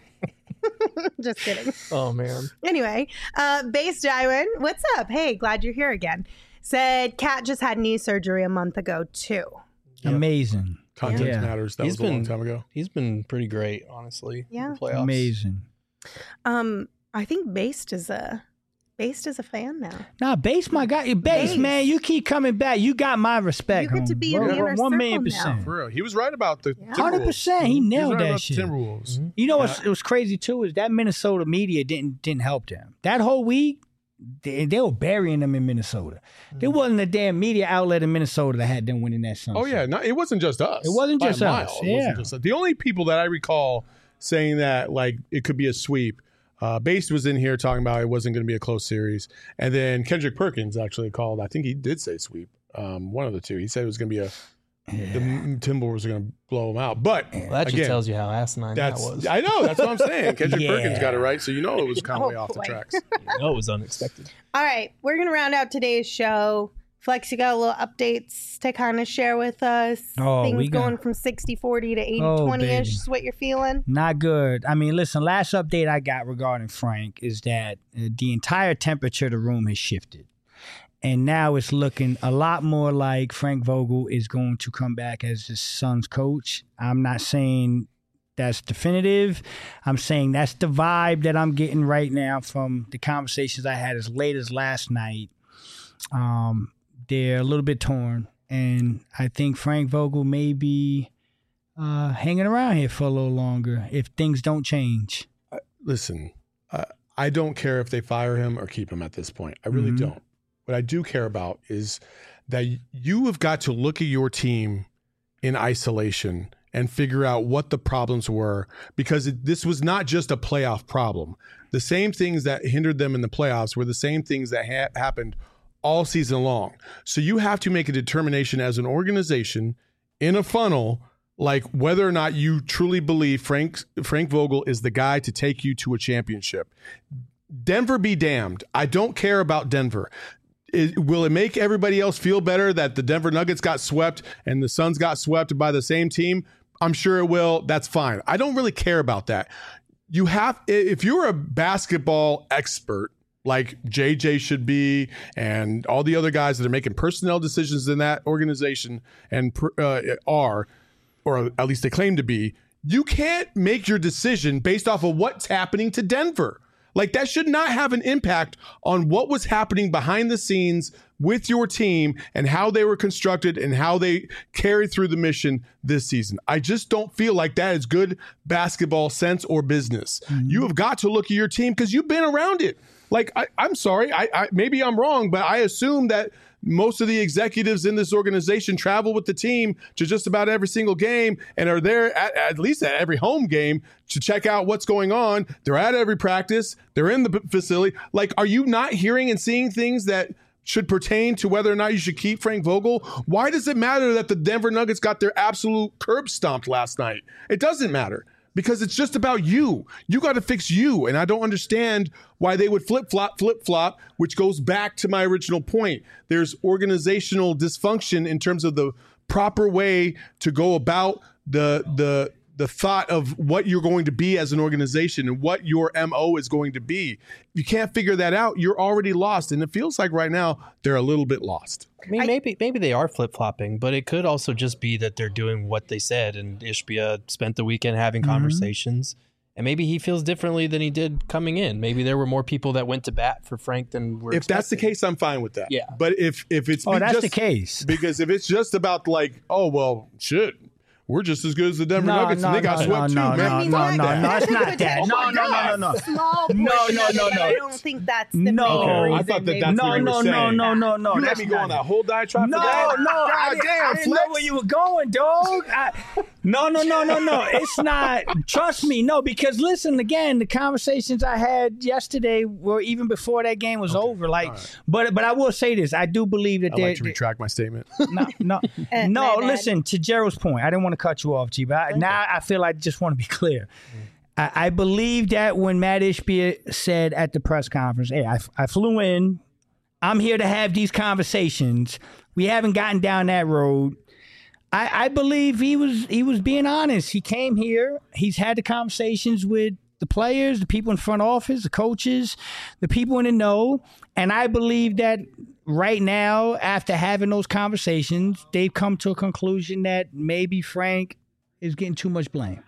okay? Just kidding. Oh man. Anyway, uh, Base Jywin, what's up? Hey, glad you're here again. Said Cat just had knee surgery a month ago, too. Yep. Amazing. Context Yeah. matters. That He's was a been long time ago. He's been pretty great, honestly. Yeah. in the playoffs. Amazing. Um, I think Based is a Based is a fan now. Nah, base, my guy. Base, Base. man. You keep coming back. You got my respect. You get to homie. be in One- the inner one million circle now. percent. For real. He was right about the Yeah. Timberwolves. Hundred percent. He He was nailed right that about shit. the Timberwolves. Mhm. You know what's it was crazy too is that Minnesota media didn't didn't help them. That whole week, they, they were burying them in Minnesota. There wasn't a damn media outlet in Minnesota that had them winning that Sunset. Oh yeah, no, it wasn't just us. It wasn't By a just mile. us, It wasn't yeah. just us. The only people that I recall saying that like it could be a sweep. Uh, Based was in here talking about it wasn't going to be a close series, and then Kendrick Perkins actually called. I think he did say sweep. Um, one of the two. He said it was going to be a. The Timberwolves are going to blow them out, but Well, that just again, tells you how asinine that that's was. I know that's what I'm saying. Kendrick Yeah. Perkins got it right, so you know it was kind of Oh, way off the boy. tracks. No, it was unexpected. All right, we're gonna round out today's show. Flex, you got a little updates to kind of share with us. Oh, Things we got- going from sixty forty to eighty Oh, twenty ish baby. is what you're feeling. Not good. I mean, listen, last update I got regarding Frank is that uh, the entire temperature of the room has shifted. And now it's looking a lot more like Frank Vogel is going to come back as his son's coach. I'm not saying that's definitive. I'm saying that's the vibe that I'm getting right now from the conversations I had as late as last night. Um, they're a little bit torn. And I think Frank Vogel may be uh, hanging around here for a little longer if things don't change. Listen, uh, I don't care if they fire him or keep him at this point. I really Mhm. don't. What I do care about is that you have got to look at your team in isolation and figure out what the problems were, because it, this was not just a playoff problem. The same things that hindered them in the playoffs were the same things that ha- happened all season long. So you have to make a determination as an organization in a funnel, like whether or not you truly believe Frank Frank Vogel is the guy to take you to a championship. Denver be damned. I don't care about Denver. It, will it make everybody else feel better that the Denver Nuggets got swept and the Suns got swept by the same team? I'm sure it will. That's fine. I don't really care about that. You have, if you're a basketball expert like J J should be, and all the other guys that are making personnel decisions in that organization and uh, are, or at least they claim to be, you can't make your decision based off of what's happening to Denver. Like, that should not have an impact on what was happening behind the scenes with your team and how they were constructed and how they carried through the mission this season. I just don't feel like that is good basketball sense or business. Mm-hmm. You have got to look at your team because you've been around it. Like, I, I'm sorry, I, I maybe I'm wrong, but I assume that most of the executives in this organization travel with the team to just about every single game and are there at, at least at every home game to check out what's going on. They're at every practice. They're in the facility. Like, are you not hearing and seeing things that should pertain to whether or not you should keep Frank Vogel? Why does it matter that the Denver Nuggets got their absolute curb stomped last night? It doesn't matter. Because it's just about you. You got to fix you. And I don't understand why they would flip-flop, flip-flop, which goes back to my original point. There's organizational dysfunction in terms of the proper way to go about the the the thought of what you're going to be as an organization and what your M O is going to be. If you can't figure that out, you're already lost. And it feels like right now they're a little bit lost. I mean, I- maybe maybe they are flip flopping, but it could also just be that they're doing what they said. And Ishbia spent the weekend having Mhm. conversations, and maybe he feels differently than he did coming in. Maybe there were more people that went to bat for Frank than were. If that's the expecting. case, I'm fine with that. Yeah. But if if it's Oh, be that's just, the case. because if it's just about like, oh well, shit, we're just as good as the Denver No, Nuggets, no, and they got no, swept no, too, no, man. I mean, no, that- no, no, that it's could not be that. a No, no, no, no, no. Small No, portion no, of no, it, but I no. don't think that's the No. main Okay, I reason thought that they- that's No, what you were no, no, saying. no, no, no. You let that's me go not on it. that whole diatribe No, for that? no, I, God didn't- damn, I didn't know Flex. where you were going, dog. I, no, no, no, no, no. It's not. Trust me, no. Because listen, again, the conversations I had yesterday were even before that game was over. Like, right. but but I will say this: I do believe that I'd there. like to retract my statement. no, no, Eh, no. my bad. Listen, to Gerald's point, I didn't want to cut you off, G, but I, now I feel I just want to be clear. I, I believe that when Matt Ishbia said at the press conference, "Hey, I, I flew in. I'm here to have these conversations." We haven't gotten down that road. I, I believe he was he was being honest. He came here. He's had the conversations with the players, the people in front office, the coaches, the people in the know. And I believe that right now, after having those conversations, they've come to a conclusion that maybe Frank is getting too much blame.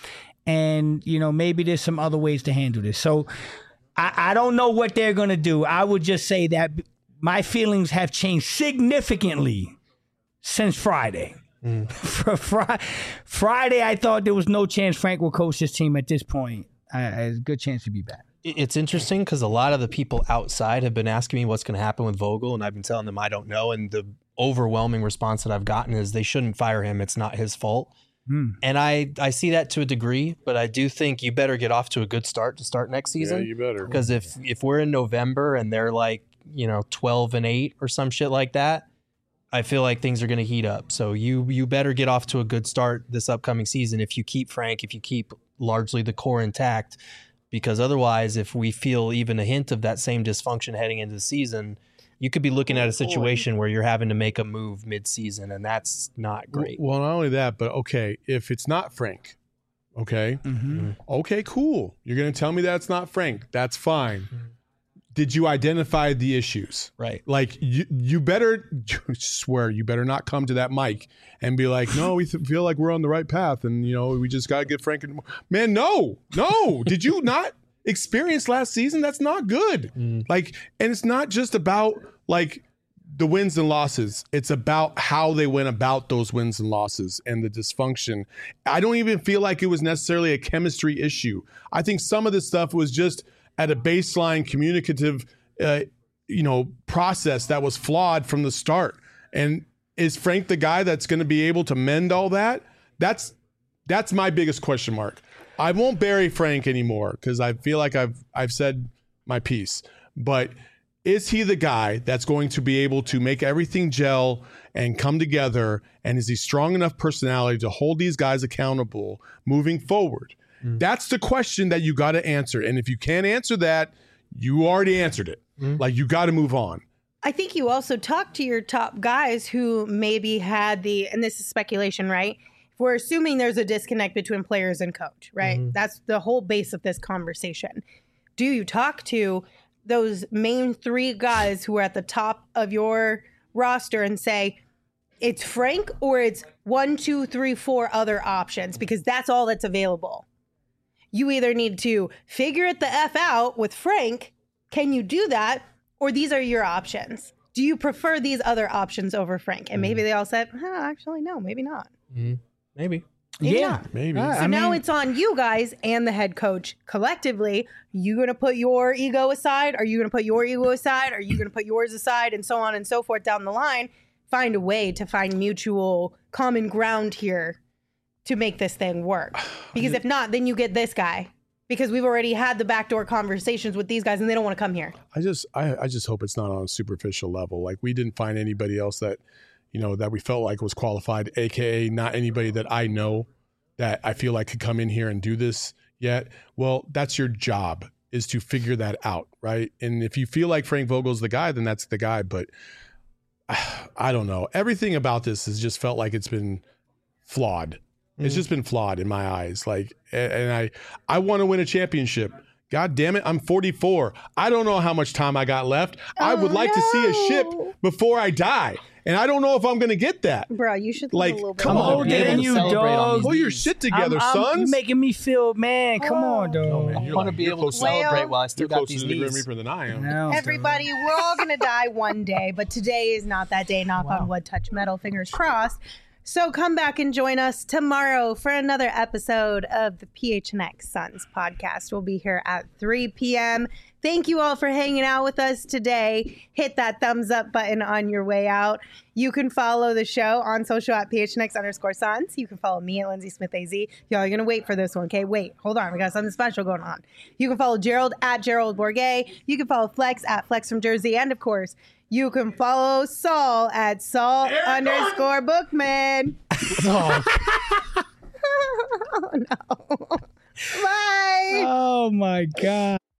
And, you know, maybe there's some other ways to handle this. So I, I don't know what they're going to do. I would just say that my feelings have changed significantly since Friday. Mm. For fr- Friday, I thought there was no chance Frank will coach this team at this point. I, I had a good chance to be back. It's interesting because a lot of the people outside have been asking me what's going to happen with Vogel, and I've been telling them I don't know. And the overwhelming response that I've gotten is they shouldn't fire him. It's not his fault. Hmm. And I, I see that to a degree, but I do think you better get off to a good start to start next season. Yeah, you better. Because if, if we're in November and they're like, you know, twelve and eight or some shit like that, I feel like things are going to heat up. So you you better get off to a good start this upcoming season if you keep Frank, if you keep largely the core intact. Because otherwise, if we feel even a hint of that same dysfunction heading into the season, you could be looking at a situation where you're having to make a move mid-season, and that's not great. Well, not only that, but okay, if it's not Frank, okay, mm-hmm. okay, cool. You're going to tell me that it's not Frank. That's fine. Mm-hmm. Did you identify the issues? Right. Like, you, you better swear, you better not come to that mic and be like, no, we th- feel like we're on the right path. And, you know, we just got to get Frank. And man, no, no. Did you not experience last season? That's not good. Mm. Like, and it's not just about like the wins and losses. It's about how they went about those wins and losses and the dysfunction. I don't even feel like it was necessarily a chemistry issue. I think some of this stuff was just at a baseline communicative, uh, you know, process that was flawed from the start. And is Frank the guy that's going to be able to mend all that? That's that's my biggest question mark. I won't bury Frank anymore because I feel like I've I've said my piece. But is he the guy that's going to be able to make everything gel and come together? And is he strong enough personality to hold these guys accountable moving forward? Mm. That's the question that you got to answer. And if you can't answer that, you already answered it. Mm. Like, you got to move on. I think you also talked to your top guys who maybe had the, and this is speculation, right? If we're assuming there's a disconnect between players and coach, right? Mm-hmm. That's the whole base of this conversation. Do you talk to those main three guys who are at the top of your roster and say, it's Frank or it's one, two, three, four other options? Because that's all that's available. You either need to figure it the F out with Frank. Can you do that? Or these are your options. Do you prefer these other options over Frank? And maybe they all said, huh, actually, no, maybe not. Mm-hmm. Maybe. Maybe yeah, not. Maybe. Uh, So I now mean, it's on you guys and the head coach collectively. You going to put your ego aside? Are you going to put your ego aside? Are you going to put yours aside? And so on and so forth down the line. Find a way to find mutual common ground here to make this thing work. Because if not, then you get this guy. Because we've already had the backdoor conversations with these guys and they don't want to come here. I just I, I just hope it's not on a superficial level. Like, we didn't find anybody else that, you know, that we felt like was qualified, A K A not anybody that I know that I feel like could come in here and do this yet. Well, that's your job, is to figure that out, right? And if you feel like Frank Vogel's the guy, then that's the guy. But I don't know. Everything about this has just felt like it's been flawed. Mm. It's just been flawed in my eyes. Like, and I, I want to win a championship. God damn it, I'm forty-four. I don't know how much time I got left. Oh, I would like no. to see a ship before I die. And I don't know if I'm going to get that. Bro, you should Like, live a little bit come I'm on, older man. than you, Celebrate on dog. these Pull your knees. shit together, I'm, I'm, sons. you making me feel, man. Come on, dog. Oh, man, I you're want to like- be you're able to closer- celebrate while I still You're got closer these to the Grim knees. Reaper than I am. No, Everybody, we're all going to die one day, but today is not that day. Knock on wood, touch metal, fingers crossed. So come back and join us tomorrow for another episode of the P H N X Suns podcast. We'll be here at three p.m. Thank you all for hanging out with us today. Hit that thumbs up button on your way out. You can follow the show on social at P H N X underscore Suns. You can follow me at Lindsay Smith A Z. Y'all are going to wait for this one, okay? Wait, hold on. We got something special going on. You can follow Gerald at Gerald Bourget. You can follow Flex at Flex from Jersey. And, of course, you can follow Saul at Saul underscore Bookman. Oh. Oh, no. Bye. Oh, my God.